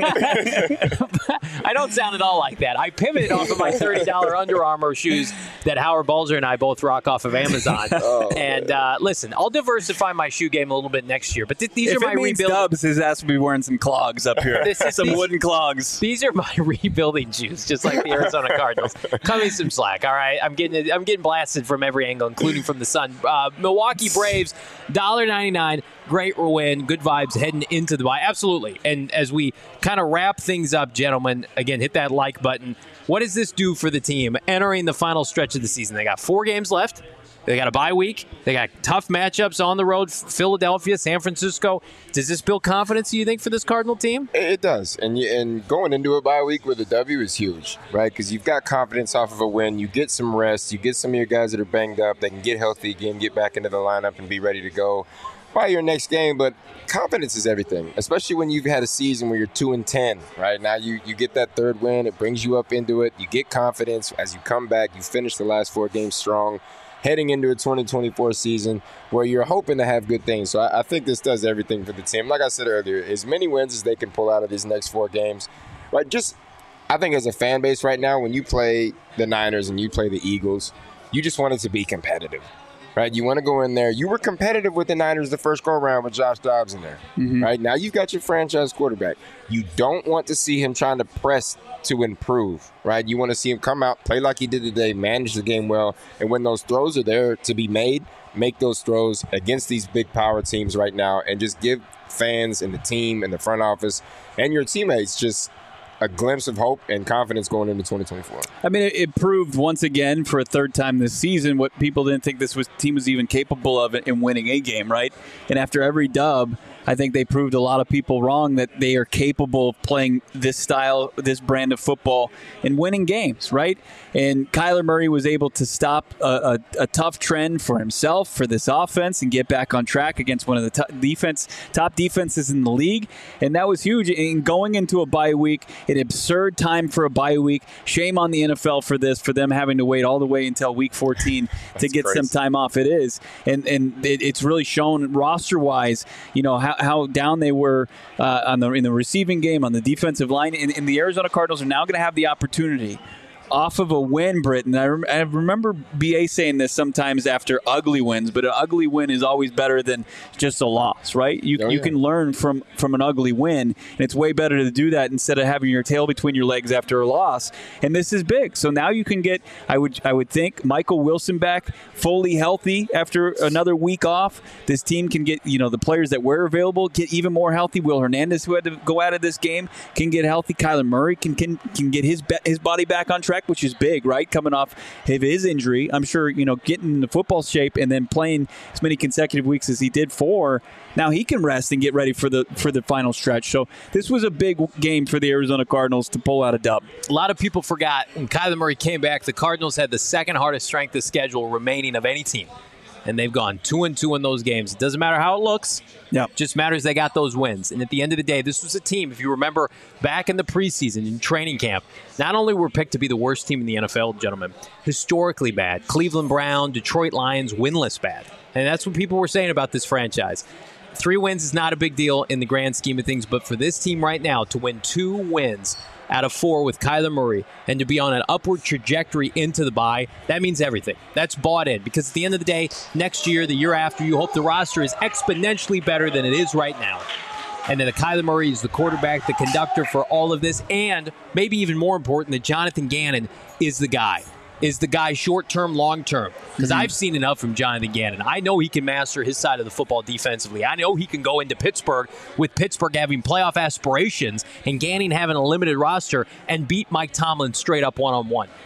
A: I don't sound at all like that. I pivoted off of my thirty dollars Under Armour shoes that Howard Balzer and I both rock off of Amazon.
C: Oh,
A: and uh, listen, I'll diversify my shoe game a little bit next year. But th- these
B: If
A: are my
B: it means
A: rebuild.
B: Dubs, his ass will be wearing some clogs up here.
A: This is-
B: some
A: these-
B: wooden clogs.
A: These are my rebuilding shoes, just like the Arizona Cardinals. Cut me some slack, all right? I'm getting I'm getting blasted from every angle, including from the sun. Uh, Milwaukee Braves, one dollar ninety-nine. Great win, good vibes heading into the bye. Absolutely. And as we kind of wrap things up, gentlemen, again, hit that like button. What does this do for the team entering the final stretch of the season? They got four games left. They got a bye week. They got tough matchups on the road, Philadelphia, San Francisco. Does this build confidence, do you think, for this Cardinal team?
C: It does, and you, and going into a bye week with a W is huge, right? Because you've got confidence off of a win. You get some rest. You get some of your guys that are banged up. They can get healthy again, get back into the lineup, and be ready to go by your next game. But confidence is everything, especially when you've had a season where you're two and ten. Right now, you you get that third win. It brings you up into it. You get confidence as you come back. You finish the last four games strong, heading into a twenty twenty-four season where you're hoping to have good things. So I, I think this does everything for the team. Like I said earlier, as many wins as they can pull out of these next four games, right? Just, I think as a fan base right now, when you play the Niners and you play the Eagles, you just want it to be competitive, right? You want to go in there. You were competitive with the Niners the first go around with Josh Dobbs in there,
B: Mm-hmm.
C: right? Now you've got your franchise quarterback. You don't want to see him trying to press to improve, right? You want to see him come out, play like he did today, manage the game well, and when those throws are there to be made, make those throws against these big power teams right now, and just give fans and the team and the front office and your teammates just a glimpse of hope and confidence going into twenty twenty-four.
B: I mean, it, it proved once again for a third time this season what people didn't think this was team was even capable of in winning a game, right? And after every dub, I think they proved a lot of people wrong that they are capable of playing this style, this brand of football, and winning games, right? And Kyler Murray was able to stop a, a, a tough trend for himself, for this offense, and get back on track against one of the top defense top defenses in the league, and that was huge. And going into a bye week, an absurd time for a bye week. Shame on the N F L for this, for them having to wait all the way until week fourteen to get
C: crazy.
B: some time off. It is, and and it, it's really shown roster wise, you know how, how down they were uh, on the in the receiving game, on the defensive line, and, and the Arizona Cardinals are now going to have the opportunity. Off of a win, Britton. I, rem- I remember B A saying this sometimes after ugly wins, but an ugly win is always better than just a loss, right? You
C: Oh,
B: you
C: yeah.
B: can learn from, from an ugly win, and it's way better to do that instead of having your tail between your legs after a loss. And this is big. So now you can get, I would I would think, Michael Wilson back fully healthy after another week off. This team can get, you know, the players that were available get even more healthy. Will Hernandez, who had to go out of this game, can get healthy. Kyler Murray can can, can get his be- his body back on track, which is big, right? Coming off of his injury, I'm sure, you know, getting the football shape and then playing as many consecutive weeks as he did for. Now he can rest and get ready for the for the final stretch. So this was a big game for the Arizona Cardinals to pull out a dub.
A: A lot of people forgot when Kyler Murray came back, the Cardinals had the second hardest strength of schedule remaining of any team. And they've gone two and two in those games. It doesn't matter how it looks.
B: Yeah.
A: Just matters they got those wins. And at the end of the day, this was a team, if you remember back in the preseason, in training camp, not only were picked to be the worst team in the N F L, gentlemen, historically bad. Cleveland Brown, Detroit Lions, winless bad. And that's what people were saying about this franchise. Three wins is not a big deal in the grand scheme of things, but for this team right now to win two wins out of four with Kyler Murray and to be on an upward trajectory into the bye, that means everything. That's bought in because at the end of the day, next year, the year after, you hope the roster is exponentially better than it is right now. And then the Kyler Murray is the quarterback, the conductor for all of this, and maybe even more important, that Jonathan Gannon is the guy. Is the guy short-term, long-term? Because mm-hmm. I've seen enough from Jonathan Gannon. I know he can master his side of the football defensively. I know he can go into Pittsburgh with Pittsburgh having playoff aspirations and Gannon having a limited roster and beat Mike Tomlin straight up one-on-one. Uh,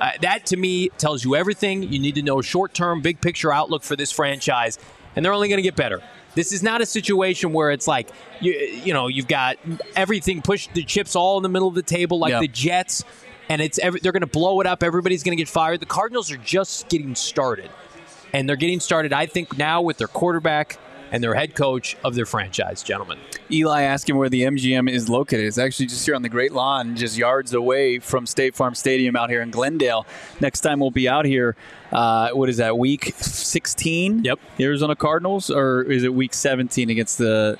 A: Uh, that, to me, tells you everything. You need to know short-term, big-picture outlook for this franchise, and they're only going to get better. This is not a situation where it's like, you, you know, you've got everything pushed, the chips all in the middle of the table like
B: yep.
A: the Jets, and it's every, they're going to blow it up. Everybody's going to get fired. The Cardinals are just getting started, and they're getting started, I think, now with their quarterback and their head coach of their franchise, gentlemen.
B: Eli asking where the M G M is located. It's actually just here on the Great Lawn, just yards away from State Farm Stadium out here in Glendale. Next time we'll be out here, uh, what is that, week sixteen?
A: Yep.
B: Arizona Cardinals, or is it week seventeen against the,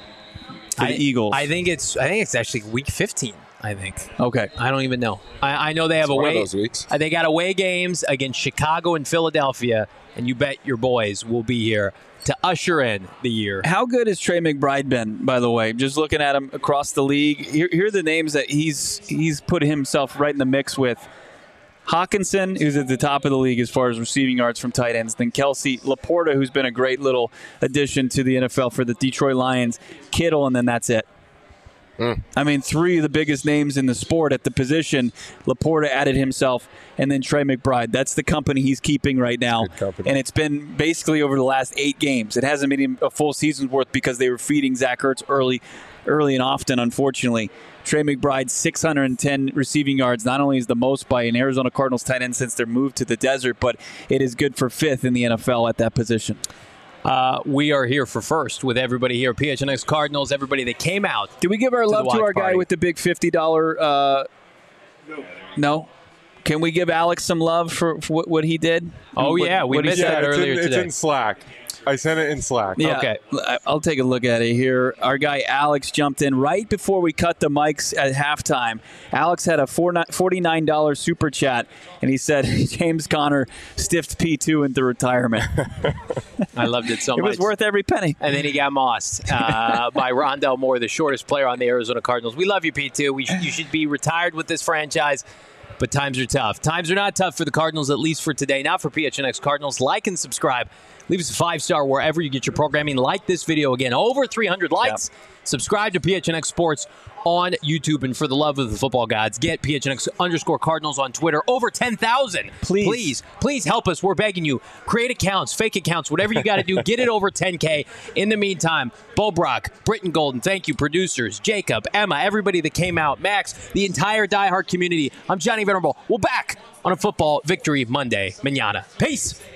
B: the
A: I,
B: Eagles?
A: I think it's I think it's actually week fifteen. I think.
B: Okay.
A: I don't even know. I, I know they have
C: It's one
A: away.
C: of those weeks.
A: uh, They got away games against Chicago and Philadelphia, and you bet your boys will be here to usher in the year.
B: How good has Trey McBride been, by the way? Just looking at him across the league, here, here are the names that he's he's put himself right in the mix with. Hawkinson, who's at the top of the league as far as receiving yards from tight ends. Then Kelsey, Laporta, who's been a great little addition to the N F L for the Detroit Lions. Kittle, and then that's it. Mm. I mean, three of the biggest names in the sport at the position. Laporta added himself, and then Trey McBride. That's the company he's keeping right now. And it's been basically over the last eight games. It hasn't been a full season's worth because they were feeding Zach Ertz early, early and often, unfortunately. Trey McBride, six hundred ten receiving yards. Not only is the most by an Arizona Cardinals tight end since their move to the desert, but it is good for fifth in the N F L at that position.
A: Uh, we are here for first with everybody here. P H N X Cardinals, everybody that came out.
B: Did we give our
A: to
B: love to our guy
A: party.
B: with the big fifty dollars? Uh, no. No? Can we give Alex some love for, for what, what he did?
A: Oh,
B: what,
A: yeah. We
B: what he
A: missed
B: said?
A: that
E: it's
A: earlier
E: in,
A: today.
E: It's in Slack. I sent it in Slack.
B: Yeah,
A: Okay.
B: I'll take a look at it here. Our guy Alex jumped in right before we cut the mics at halftime. Alex had a forty-nine dollars super chat, and he said James Conner stiffed P two into retirement.
A: I loved it so
B: It
A: much.
B: was worth every penny.
A: And then he got mossed uh, by Rondell Moore, the shortest player on the Arizona Cardinals. We love you, P two. We sh- you should be retired with this franchise, but times are tough. Times are not tough for the Cardinals, at least for today. Not for P H N X Cardinals. Like and subscribe. Leave us a five-star wherever you get your programming. Like this video again. Over three hundred likes. Yep. Subscribe to P H N X Sports on YouTube. And for the love of the football gods, get P H N X underscore Cardinals on Twitter. Over ten thousand.
B: Please.
A: Please. Please help us. We're begging you. Create accounts, fake accounts, whatever you got to do. Get it over ten K. In the meantime, Bo Brock, Britton Golden, thank you, producers, Jacob, Emma, everybody that came out, Max, the entire diehard community. I'm Johnny Venerable. We're back on a Football Victory Monday. Manana. Peace.